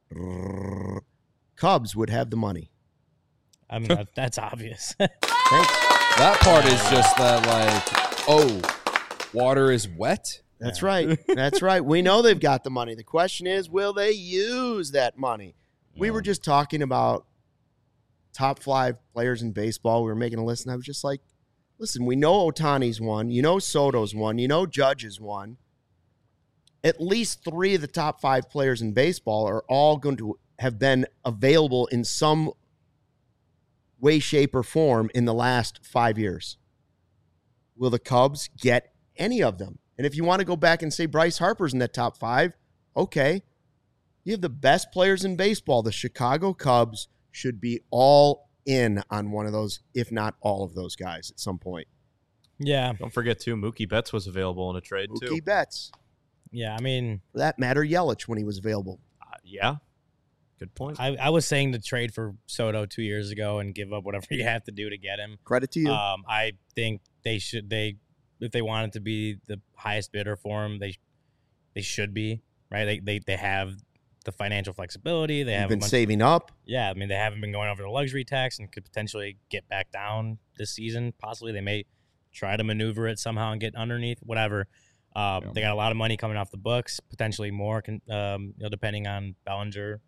A: Cubs would have the money.
B: I mean, that's obvious.
C: That part is just that, water is wet.
A: That's right. That's right. We know they've got the money. The question is, will they use that money? Yeah. We were just talking about top 5 players in baseball. We were making a list, and I was just like, listen, we know Ohtani's won. You know Soto's won. You know Judge has won. At least 3 of the top 5 players in baseball are all going to have been available in some way, shape, or form in the last 5 years. Will the Cubs get any of them? And if you want to go back and say Bryce Harper's in that top 5, okay. You have the best players in baseball. The Chicago Cubs should be all in on one of those, if not all of those guys at some point.
B: Yeah.
D: Don't forget, too, Mookie Betts was available in a trade, too.
A: Mookie Betts.
B: Yeah, I mean.
A: For that matter, Yelich when he was available.
D: Yeah. Good point.
B: I was saying to trade for Soto 2 years ago and give up whatever you have to do to get him.
A: Credit to you.
B: I think if they wanted to be the highest bidder for him, they should be, right? They have the financial flexibility. They have
A: been saving up.
B: Yeah, I mean, they haven't been going over the luxury tax and could potentially get back down this season. Possibly they may try to maneuver it somehow and get underneath, whatever. They got a lot of money coming off the books, potentially more, depending on Bellinger.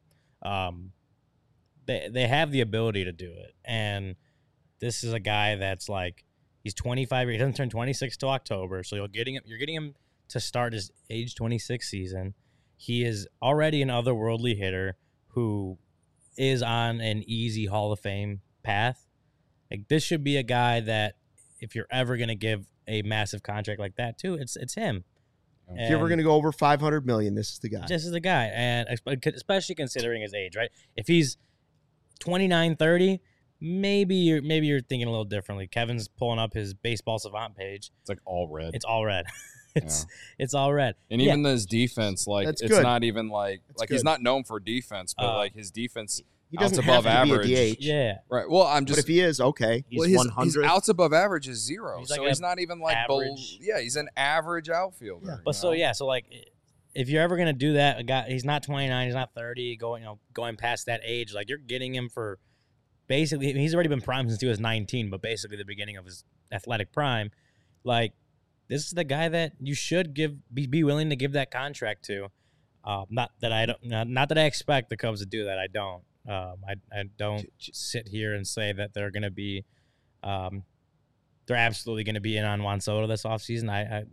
B: They have the ability to do it, and this is a guy that's like, he's 25. He doesn't turn 26 till October, so you're getting him to start his age 26 season. He is already an otherworldly hitter who is on an easy Hall of Fame path. Like, this should be a guy that, if you're ever going to give a massive contract like that to, it's him.
A: If you're ever going to go over $500 million, this is the guy.
B: This is the guy, and especially considering his age, right? If he's 29, 30, maybe you're thinking a little differently. Kevin's pulling up his Baseball Savant page.
C: It's like all red.
B: It's all red. It's all red.
C: And even his defense, like
A: That's
C: it's
A: good.
C: not even like
A: That's
C: he's
A: good.
C: not known for defense, but like his defense
A: He
C: outs
A: doesn't
C: above
A: have to
C: average.
A: be a DH.
B: Yeah.
C: Right. Well, I'm
A: But
C: just
A: if he is, okay.
D: He's
C: his
D: 100th.
C: outs above average is 0.
B: He's like
C: so
B: a
C: he's not even like
B: average.
C: he's an average outfielder.
A: Yeah.
B: But so like if you're ever gonna do that, a guy he's not 29, he's not 30, going past that age, like you're getting him for basically he's already been primed since he was 19, but basically the beginning of his athletic prime. Like this is the guy that you should be willing to give that contract to. Not that I expect the Cubs to do that. I don't. I don't sit here and say that they're going to be, they're absolutely going to be in on Juan Soto this offseason.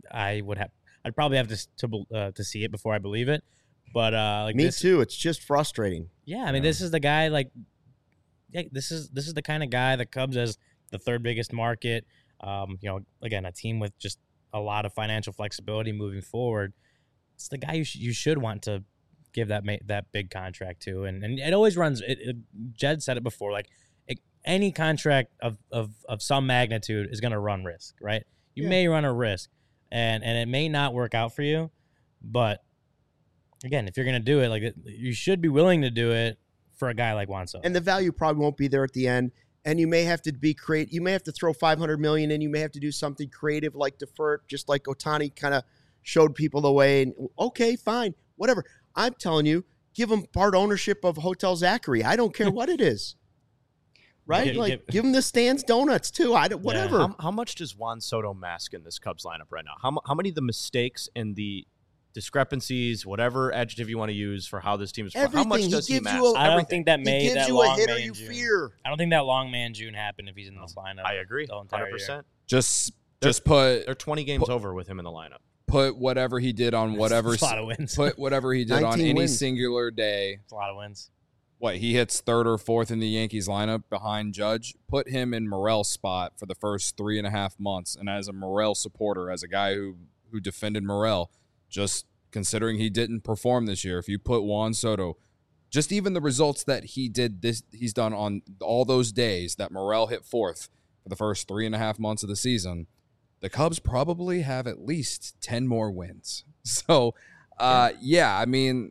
B: I'd probably have to see it before I believe it. But
A: Me too. It's just frustrating.
B: Yeah, I mean, this is the guy. This is the kind of guy the Cubs as the third biggest market. Again, a team with just a lot of financial flexibility moving forward. It's the guy you should want to give that big contract to, and it always runs. Jed said it before, like any contract of some magnitude is going to run risk, right? You may run a risk, and it may not work out for you, but again, if you're going to do it, like you should be willing to do it for a guy like Juan Soto.
A: And the value probably won't be there at the end. And you may have to be creative. You may have to throw $500 million in. You may have to do something creative like defer it, just like Ohtani kind of showed people the way. And okay, fine, whatever. I'm telling you, give him part ownership of Hotel Zachary. I don't care what it is. Right? Give him the Stan's Donuts too. Whatever.
D: Yeah. How much does Juan Soto mask in this Cubs lineup right now? How many of the mistakes and the discrepancies, whatever adjective you want to use for how this team is, how much does he mask?
B: I don't think that
A: he gives you a hitter you fear.
B: I don't think that long man June happened if he's in this lineup.
D: I agree,
B: the entire
D: 100%.
B: year.
C: Just put
D: they're 20 games over with him in the lineup.
C: Put whatever he did on whatever.
B: It's a lot of wins.
C: Put whatever he did on any
A: wins.
C: singular day.
B: It's a lot of wins.
C: What, he hits third or fourth in the Yankees lineup behind Judge? Put him in Morel's spot for the first 3.5 months. And as a Morel supporter, as a guy who defended Morel, just considering he didn't perform this year, if you put Juan Soto, just even the results that he's done on all those days that Morel hit fourth for the first 3.5 months of the season, the Cubs probably have at least 10 more wins. So, I mean,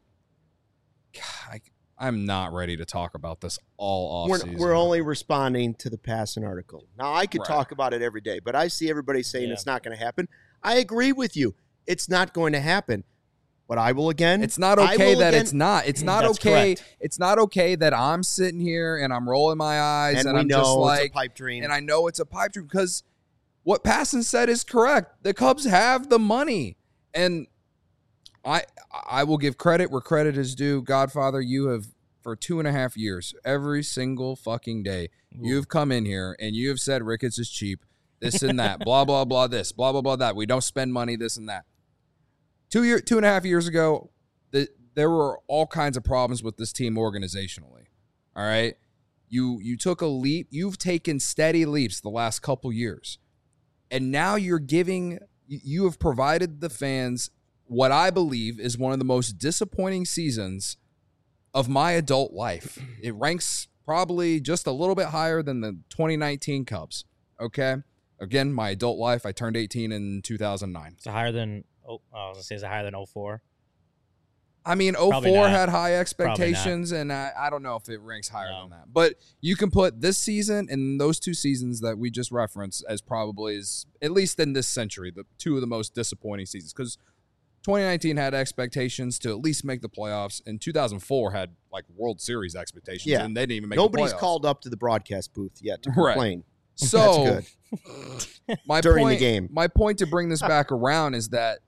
C: I'm not ready to talk about this all offseason.
A: We're only responding to the passing article. Now, I could talk about it every day, but I see everybody saying it's not going to happen. I agree with you. It's not going to happen. But I will again.
C: It's not okay that it's not. It's not
B: That's
C: okay.
B: correct.
C: It's not okay that I'm sitting here and I'm rolling my eyes and
A: we
C: I'm
A: know
C: just like,
A: it's a pipe dream.
C: and I know it's a pipe dream because what Passan said is correct. The Cubs have the money, and I will give credit where credit is due. Godfather, you have for 2.5 years, every single fucking day, you've come in here and you have said Ricketts is cheap, this and that, blah blah blah, this, blah blah blah, that. We don't spend money, this and that. 2.5 years ago, there were all kinds of problems with this team organizationally. All right, you took a leap. You've taken steady leaps the last couple years, and now you have provided the fans what I believe is one of the most disappointing seasons of my adult life. It ranks probably just a little bit higher than the 2019 Cubs. Okay, again, my adult life. I turned 18 in 2009.
B: It's higher than. I was gonna say, is it higher than 04?
C: I mean,
B: Probably
C: 04
B: not.
C: had high expectations, and I don't know if it ranks higher
B: No.
C: than that. But you can put this season and those 2 seasons that we just referenced as probably, at least in this century, the 2 of the most disappointing seasons. Because 2019 had expectations to at least make the playoffs, and 2004 had like World Series expectations, and they didn't even make
A: Nobody's
C: the playoffs.
A: called up to the broadcast booth yet to
C: Right.
A: complain.
C: So
A: That's good.
C: my
A: During the
C: point,
A: game.
C: My point to bring this back around is that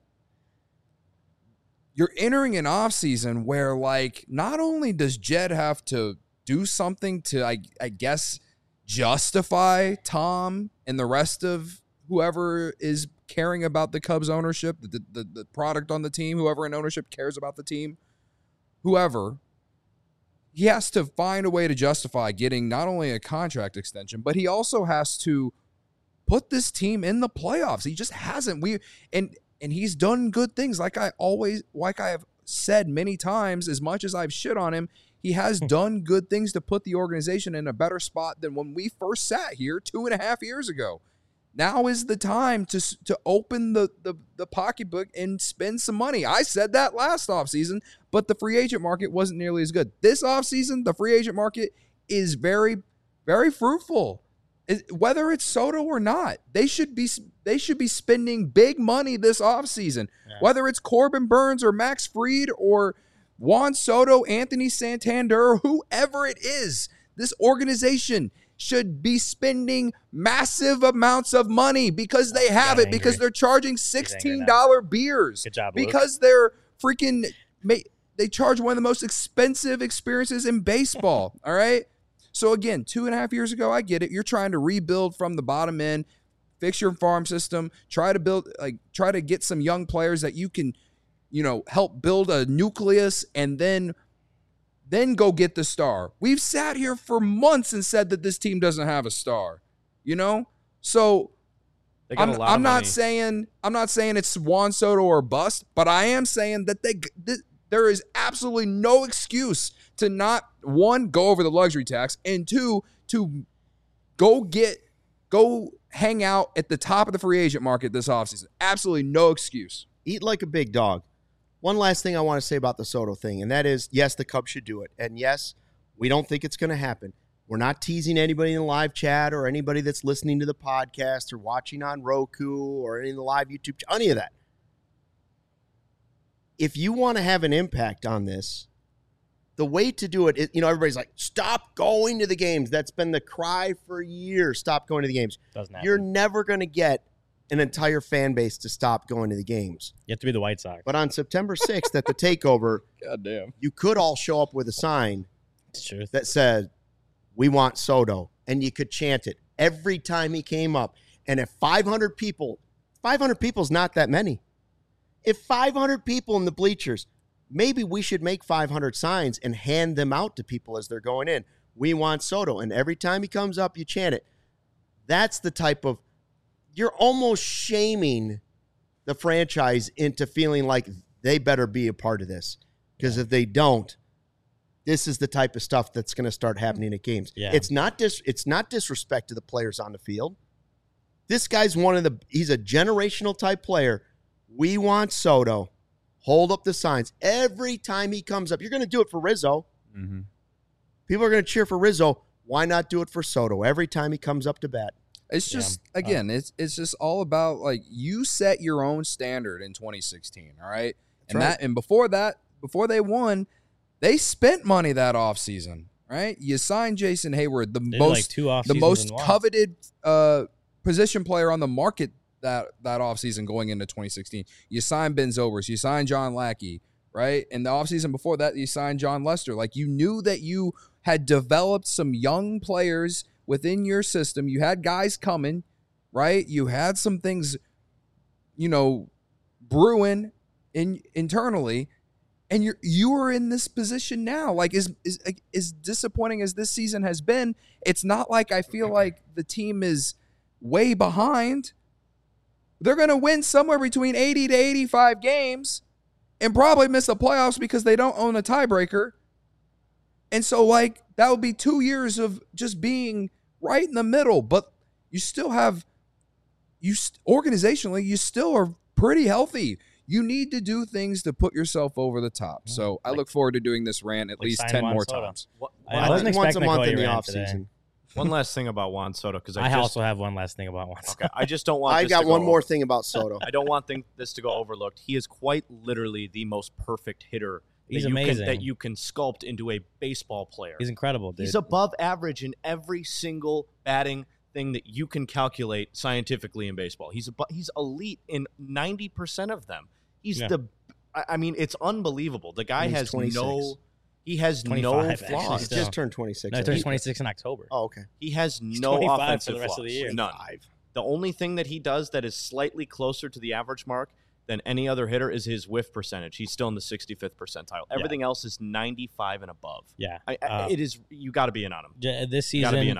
C: you're entering an offseason where, like, not only does Jed have to do something to, I guess, justify Tom and the rest of whoever is caring about the Cubs ownership, the product on the team, whoever in ownership cares about the team, whoever, he has to find a way to justify getting not only a contract extension, but he also has to put this team in the playoffs. He just hasn't. And he's done good things. Like I have said many times, as much as I've shit on him, He has done good things to put the organization in a better spot than when we first sat here 2.5 years ago. Now is the time to open the pocketbook and spend some money. I said that last offseason, but the free agent market wasn't nearly as good. This offseason, the free agent market is very, very fruitful. Whether it's Soto or not, they should be spending big money this offseason. Yeah. Whether it's Corbin Burnes or Max Fried or Juan Soto, Anthony Santander, whoever it is, this organization should be spending massive amounts of money because they have it, because they're charging $16 beers.
B: Good job,
C: because they're freaking they charge one of the most expensive experiences in baseball. All right. So again, 2.5 years ago, I get it. You're trying to rebuild from the bottom end, fix your farm system, try to get some young players that you can, help build a nucleus and then go get the star. We've sat here for months and said that this team doesn't have a star, So I'm not saying it's Juan Soto or bust, but I am saying that there is absolutely no excuse to not, one, go over the luxury tax, and two, to go hang out at the top of the free agent market this offseason. Absolutely no excuse.
A: Eat like a big dog. One last thing I want to say about the Soto thing, and that is, yes, the Cubs should do it. And yes, we don't think it's going to happen. We're not teasing anybody in the live chat or anybody that's listening to the podcast or watching on Roku or any of the live YouTube, any of that. If you want to have an impact on this, the way to do it is, everybody's like, stop going to the games. That's been the cry for years. Stop going to the games.
B: Doesn't happen.
A: You're never going to get an entire fan base to stop going to the games.
B: You have to be the White Sox.
A: But on September 6th at the takeover,
C: goddamn,
A: you could all show up with a sign
B: that
A: said, "We want Soto," and you could chant it every time he came up. And if 500 people is not that many. If 500 people in the bleachers, maybe we should make 500 signs and hand them out to people as they're going in. We want Soto. And every time he comes up, you chant it. That's the type of, you're almost shaming the franchise into feeling like they better be a part of this. Because if they don't, this is the type of stuff that's going to start happening at games.
B: Yeah.
A: It's not disrespect to the players on the field. This guy's he's a generational type player. We want Soto. Hold up the signs. Every time he comes up, you're going to do it for Rizzo.
C: Mm-hmm.
A: People are going to cheer for Rizzo. Why not do it for Soto every time he comes up to bat?
C: It's just, it's just all about, like, you set your own standard in 2016, all right? And before they won, they spent money that offseason, right? You signed Jason Hayward, the most coveted position player on the market that offseason going into 2016. You signed Ben Zobrist. You signed John Lackey, right? And the offseason before that, you signed John Lester. Like, you knew that you had developed some young players within your system. You had guys coming, right? You had some things, brewing internally, and you are in this position now. Like, as disappointing as this season has been, it's not like I feel like the team is way behind. They're going to win somewhere between 80 to 85 games and probably miss the playoffs because they don't own a tiebreaker. And so, like, that would be 2 years of just being right in the middle. But you still have, organizationally, you still are pretty healthy. You need to do things to put yourself over the top. So I look forward to doing this rant at least 10 more times.
B: I wasn't
A: once a
B: expecting
A: month
B: to
A: in the
B: call you
A: offseason.
D: One last thing about Juan Soto, because
B: I also have one last thing about Juan Soto.
D: Okay, I just don't want.
A: I got one more thing about Soto.
D: I don't want this to go overlooked. He is quite literally the most perfect hitter
B: He's amazing.
D: That you can sculpt into a baseball player.
B: He's incredible, dude.
D: He's above average in every single batting thing that you can calculate scientifically in baseball. He's elite in 90% of them. It's unbelievable. The guy has
A: 26.
D: He has
B: 25,
D: no flaws.
A: He just turned 26.
B: No, he turns 26 in October.
A: Oh, okay.
D: He has no
B: 25
D: offensive
B: for the rest
D: flaws.
B: of the year.
D: None. The only thing that he does that is slightly closer to the average mark than any other hitter is his whiff percentage. He's still in the 65th percentile. Everything else is 95 and above.
B: Yeah.
D: It is. You got to be in on him.
B: This
D: You got to be
B: season,
D: in on him.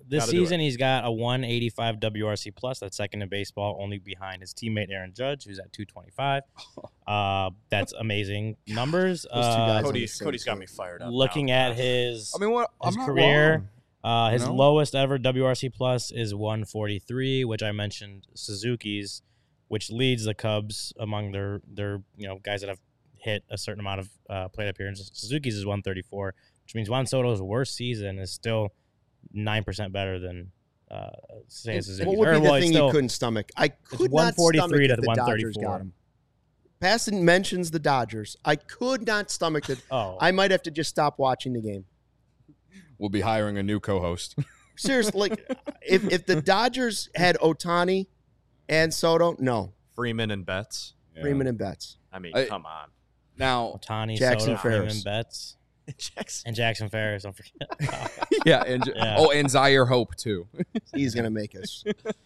B: this
D: Gotta do it.
B: season he's got a 185 WRC plus. That's second in baseball, only behind his teammate Aaron Judge, who's at 225. That's amazing numbers.
A: Those two guys on the
D: Cody's
A: same
D: got
A: team.
D: me fired up.
B: Looking
D: now.
B: at his
C: I mean, what? I'm
B: his
C: not
B: career,
C: wrong.
B: his
C: you know?
B: lowest ever WRC plus is 143, which I mentioned Suzuki's, which leads the Cubs among their guys that have hit a certain amount of plate appearances. Suzuki's is 134, which means Juan Soto's worst season is still 9% better than say Suzuki's.
A: What would be the thing you couldn't stomach? I could not stomach
B: 143 to
A: if the Dodgers
B: 134.
A: got him. Passon mentions the Dodgers. I could not stomach it.
B: Oh,
A: I might have to just stop watching the game.
C: We'll be hiring a new co-host.
A: Seriously, like, if the Dodgers had Ohtani and Soto, no.
D: Freeman and Betts.
A: Freeman and Betts.
D: I mean,
C: I-
D: come on.
C: Now,
B: Ohtani,
A: Jackson
B: Soto, Freeman,
A: Ferris.
B: Betts,
D: Jackson.
B: and Jackson Ferris. Don't forget.
C: yeah,
B: Yeah.
C: and Zaire Hope too.
A: He's going to make us.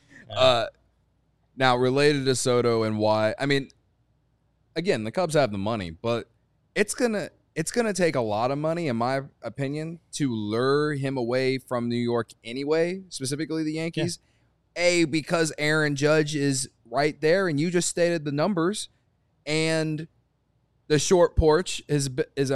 C: Now related to Soto and why, I mean, again, the Cubs have the money, but it's gonna take a lot of money, in my opinion, to lure him away from New York anyway, specifically the Yankees. Because Aaron Judge is right there, and you just stated the numbers, and the short porch is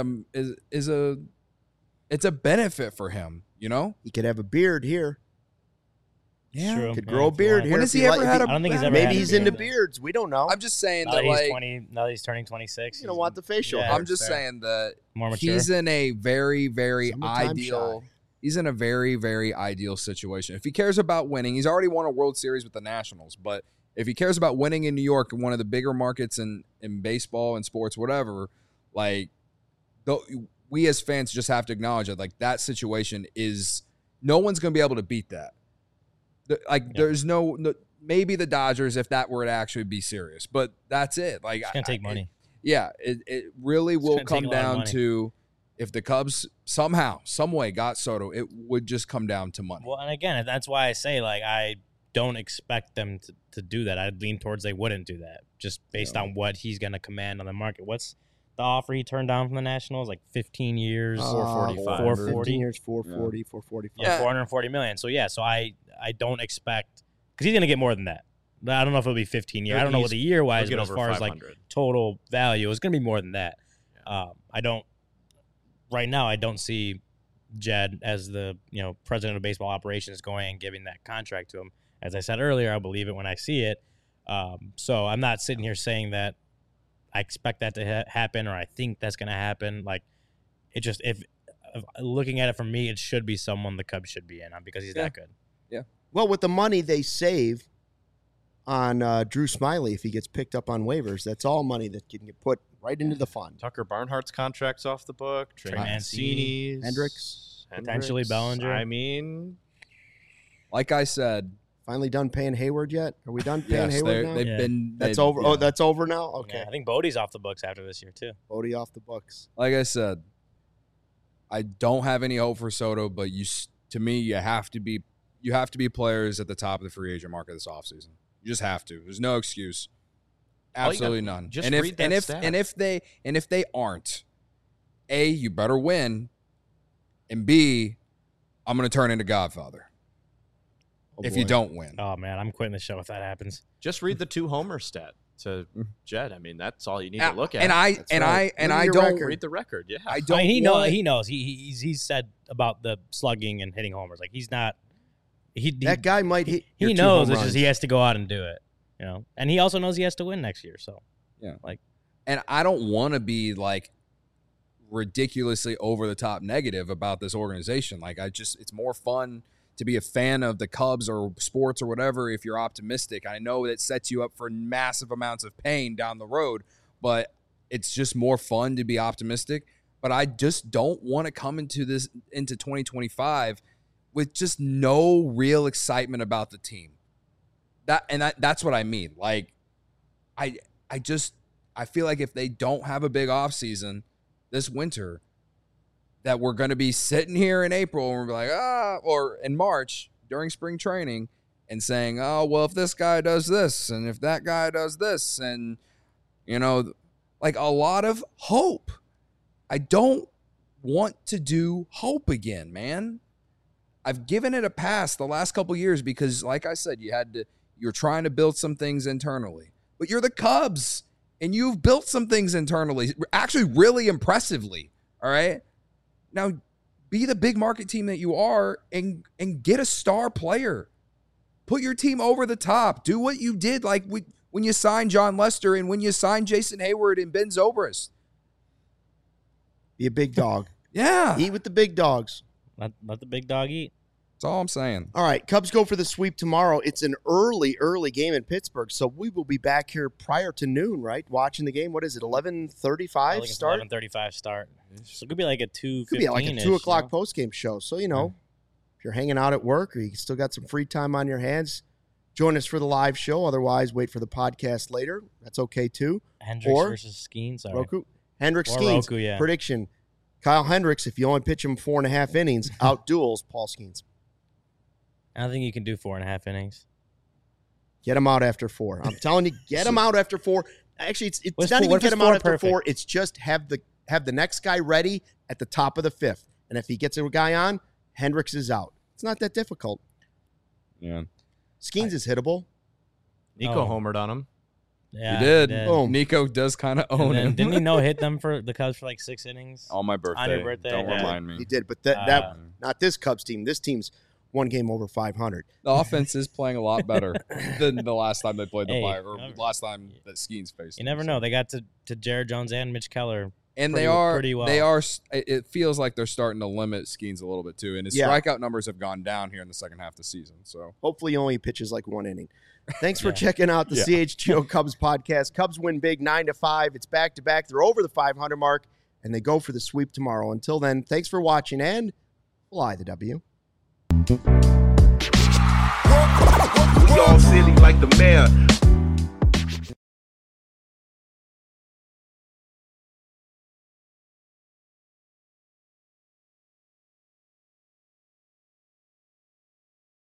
C: a benefit for him, you know?
A: He could have a beard here.
B: It's true.
A: Could
B: Yeah,
A: grow a
B: if you
A: beard
B: want.
A: here.
C: When
A: if
C: has he
A: you
C: ever
A: like-
C: had
A: if
C: a
B: I don't think he's ever
A: Maybe
B: had a
A: he's
B: beard.
A: into beards. We don't know.
C: I'm just saying
B: Now
C: that,
B: that he's
C: like,
B: 20, now that he's turning 26.
A: You don't want the facial
B: Yeah.
A: hair.
C: I'm just
B: fair.
C: saying that
B: More mature.
C: he's in a very, very
A: Summertime
C: ideal.
A: shy.
C: He's in a very, very ideal situation. If he cares about winning, he's already won a World Series with the Nationals. But if he cares about winning in New York, one of the bigger markets in baseball and sports, whatever, like, we as fans just have to acknowledge that, like, that situation is no one's going to be able to beat that. There's no maybe the Dodgers if that were to actually be serious, but that's it. Like,
B: It's gonna take money.
C: It really will
B: gonna take
C: come
B: a lot of
C: down
B: money.
C: to if the Cubs somehow, some way got Soto, it would just come down to money.
B: Well, and again, that's why I say, like, I don't expect them to do that. I'd lean towards they wouldn't do that, just based on what he's going to command on the market. What's the offer he turned down from the Nationals? Like 15 years,
D: 445.
B: 440,
A: 15 years, 440, 445.
B: yeah, 440 million. So yeah, so I don't expect, because he's going to get more than that. I don't know if it'll be 15 years. I don't know what the year wise,
D: He'll
B: but
D: get
B: as
D: over
B: far as like
D: 500.
B: total value, it's going to be more than that. I don't. Right now, I don't see Jed as the president of baseball operations going and giving that contract to him. As I said earlier, I'll believe it when I see it. So I'm not sitting here saying that I expect that to happen or I think that's going to happen. Like, it just, if looking at it from me, it should be someone the Cubs should be in on because he's that good.
A: Well, with the money they save on Drew Smiley, if he gets picked up on waivers, that's all money that can get put right into the fund.
D: Tucker Barnhart's contract's off the book. Trey
B: Trey
D: Mancini's.
A: Hendricks.
B: Potentially Bellinger.
D: I mean,
C: Like I said,
A: Finally done paying Hayward yet? Are we done paying
C: yes,
A: Hayward now?
C: they've
B: Yeah.
C: been.
A: That's
C: they've-
A: over.
C: yeah.
A: Oh, that's over now? Okay.
B: Yeah, I think Bodie's off the books after this year too.
A: Bodie off the books.
C: Like I said, I don't have any hope for Soto, but to me, you have to be players at the top of the free agent market this offseason. You just have to. There's no excuse.
D: All you
C: Absolutely
D: gotta-
C: none.
D: just
C: and if
D: read that
C: and if
D: stat.
C: and if they aren't, A, you better win, and B, I'm going to turn into Godfather
A: Oh,
C: if
A: boy.
C: you don't win.
B: Oh man, I'm quitting the show if that happens.
D: just read the 2 homer stat to Jed. I mean, that's all you need
C: Yeah,
D: to look at.
C: and I
A: That's
C: and
A: right.
C: I and
A: Look at
C: I
A: your
C: don't
A: record.
D: read the record. Yeah.
C: I don't
B: I mean,
C: want,
B: he knows. He's said about the slugging and hitting homers. Like he's not.
A: That guy might hit. your
B: he
A: 2
B: knows.
A: home
B: It's just he
A: runs.
B: has to go out and do it. And he also knows he has to win next year. So
C: and I don't want to be like ridiculously over the top negative about this organization. Like it's more fun to be a fan of the Cubs or sports or whatever if you're optimistic. I know it sets you up for massive amounts of pain down the road, but it's just more fun to be optimistic. But I just don't want to come into 2025 with just no real excitement about the team. That's what I mean. Like I feel like if they don't have a big offseason this winter, that we're going to be sitting here in April and we're like, or in March during spring training and saying, oh, well, if this guy does this and if that guy does this and, like a lot of hope. I don't want to do hope again, man. I've given it a pass the last couple years because, like I said, you're trying to build some things internally. But you're the Cubs, and you've built some things internally, actually really impressively, all right? Now, be the big market team that you are and get a star player. Put your team over the top. Do what you did like when you signed John Lester and when you signed Jason Hayward and Ben Zobrist.
A: Be a big dog.
C: Yeah.
A: Eat with the big dogs.
B: Let the big dog eat.
C: That's all I'm saying.
A: All right, Cubs go for the sweep tomorrow. It's an early game in Pittsburgh, so we will be back here prior to noon, right? Watching the game. What is it, 11:35 start?
B: 11:35 start. So it could be like a 2:15.
A: Could be like a 2 o'clock postgame show. So, if you're hanging out at work or you still got some free time on your hands, join us for the live show. Otherwise, wait for the podcast later. That's okay, too.
B: Hendricks versus Skeens.
A: Roku. Hendricks,
B: or
A: Skeens.
B: Roku, yeah.
A: Prediction. Kyle Hendricks, if you only pitch him 4.5 innings, outduels Paul Skeens.
B: I don't think you can do 4.5 innings.
A: Get him out after 4. I'm telling you, get him out after 4. Actually, it's
B: What's
A: not
B: four-
A: even
B: what if
A: get
B: it's
A: him out
B: 4
A: after
B: perfect?
A: 4. It's just have the next guy ready at the top of the 5th. And if he gets a guy on, Hendricks is out. It's not that difficult.
C: Yeah.
A: Skeens is hittable.
D: Nico
B: Oh.
D: homered on him.
B: Yeah,
C: He did.
A: Boom.
C: Nico does kind of
B: And
C: own
B: then,
C: him.
B: didn't he hit them for the Cubs for like 6 innings?
C: On my birthday.
B: On your birthday,
C: Don't
B: yeah.
C: remind me.
A: He did, but that not this Cubs team. This team's one game over 500.
C: The offense is playing a lot better than the last time they played the
B: Hey,
C: Fire, or last time that Skeens faced
B: You
C: them,
B: never
C: so.
B: know. They got to Jared Jones and Mitch Keller.
C: And
B: pretty-
C: they are
B: pretty well.
C: they are. It feels like they're starting to limit Skeens a little bit too, and his
A: Yeah.
C: strikeout numbers have gone down here in the second half of the season. So
A: Hopefully, he only pitches like 1 inning. Thanks for
B: Yeah.
A: checking out the
C: Yeah.
A: CHGO Cubs podcast. Cubs win big 9-5. It's back to back. They're over the 500 mark, and they go for the sweep tomorrow. Until then, thanks for watching, and fly the W.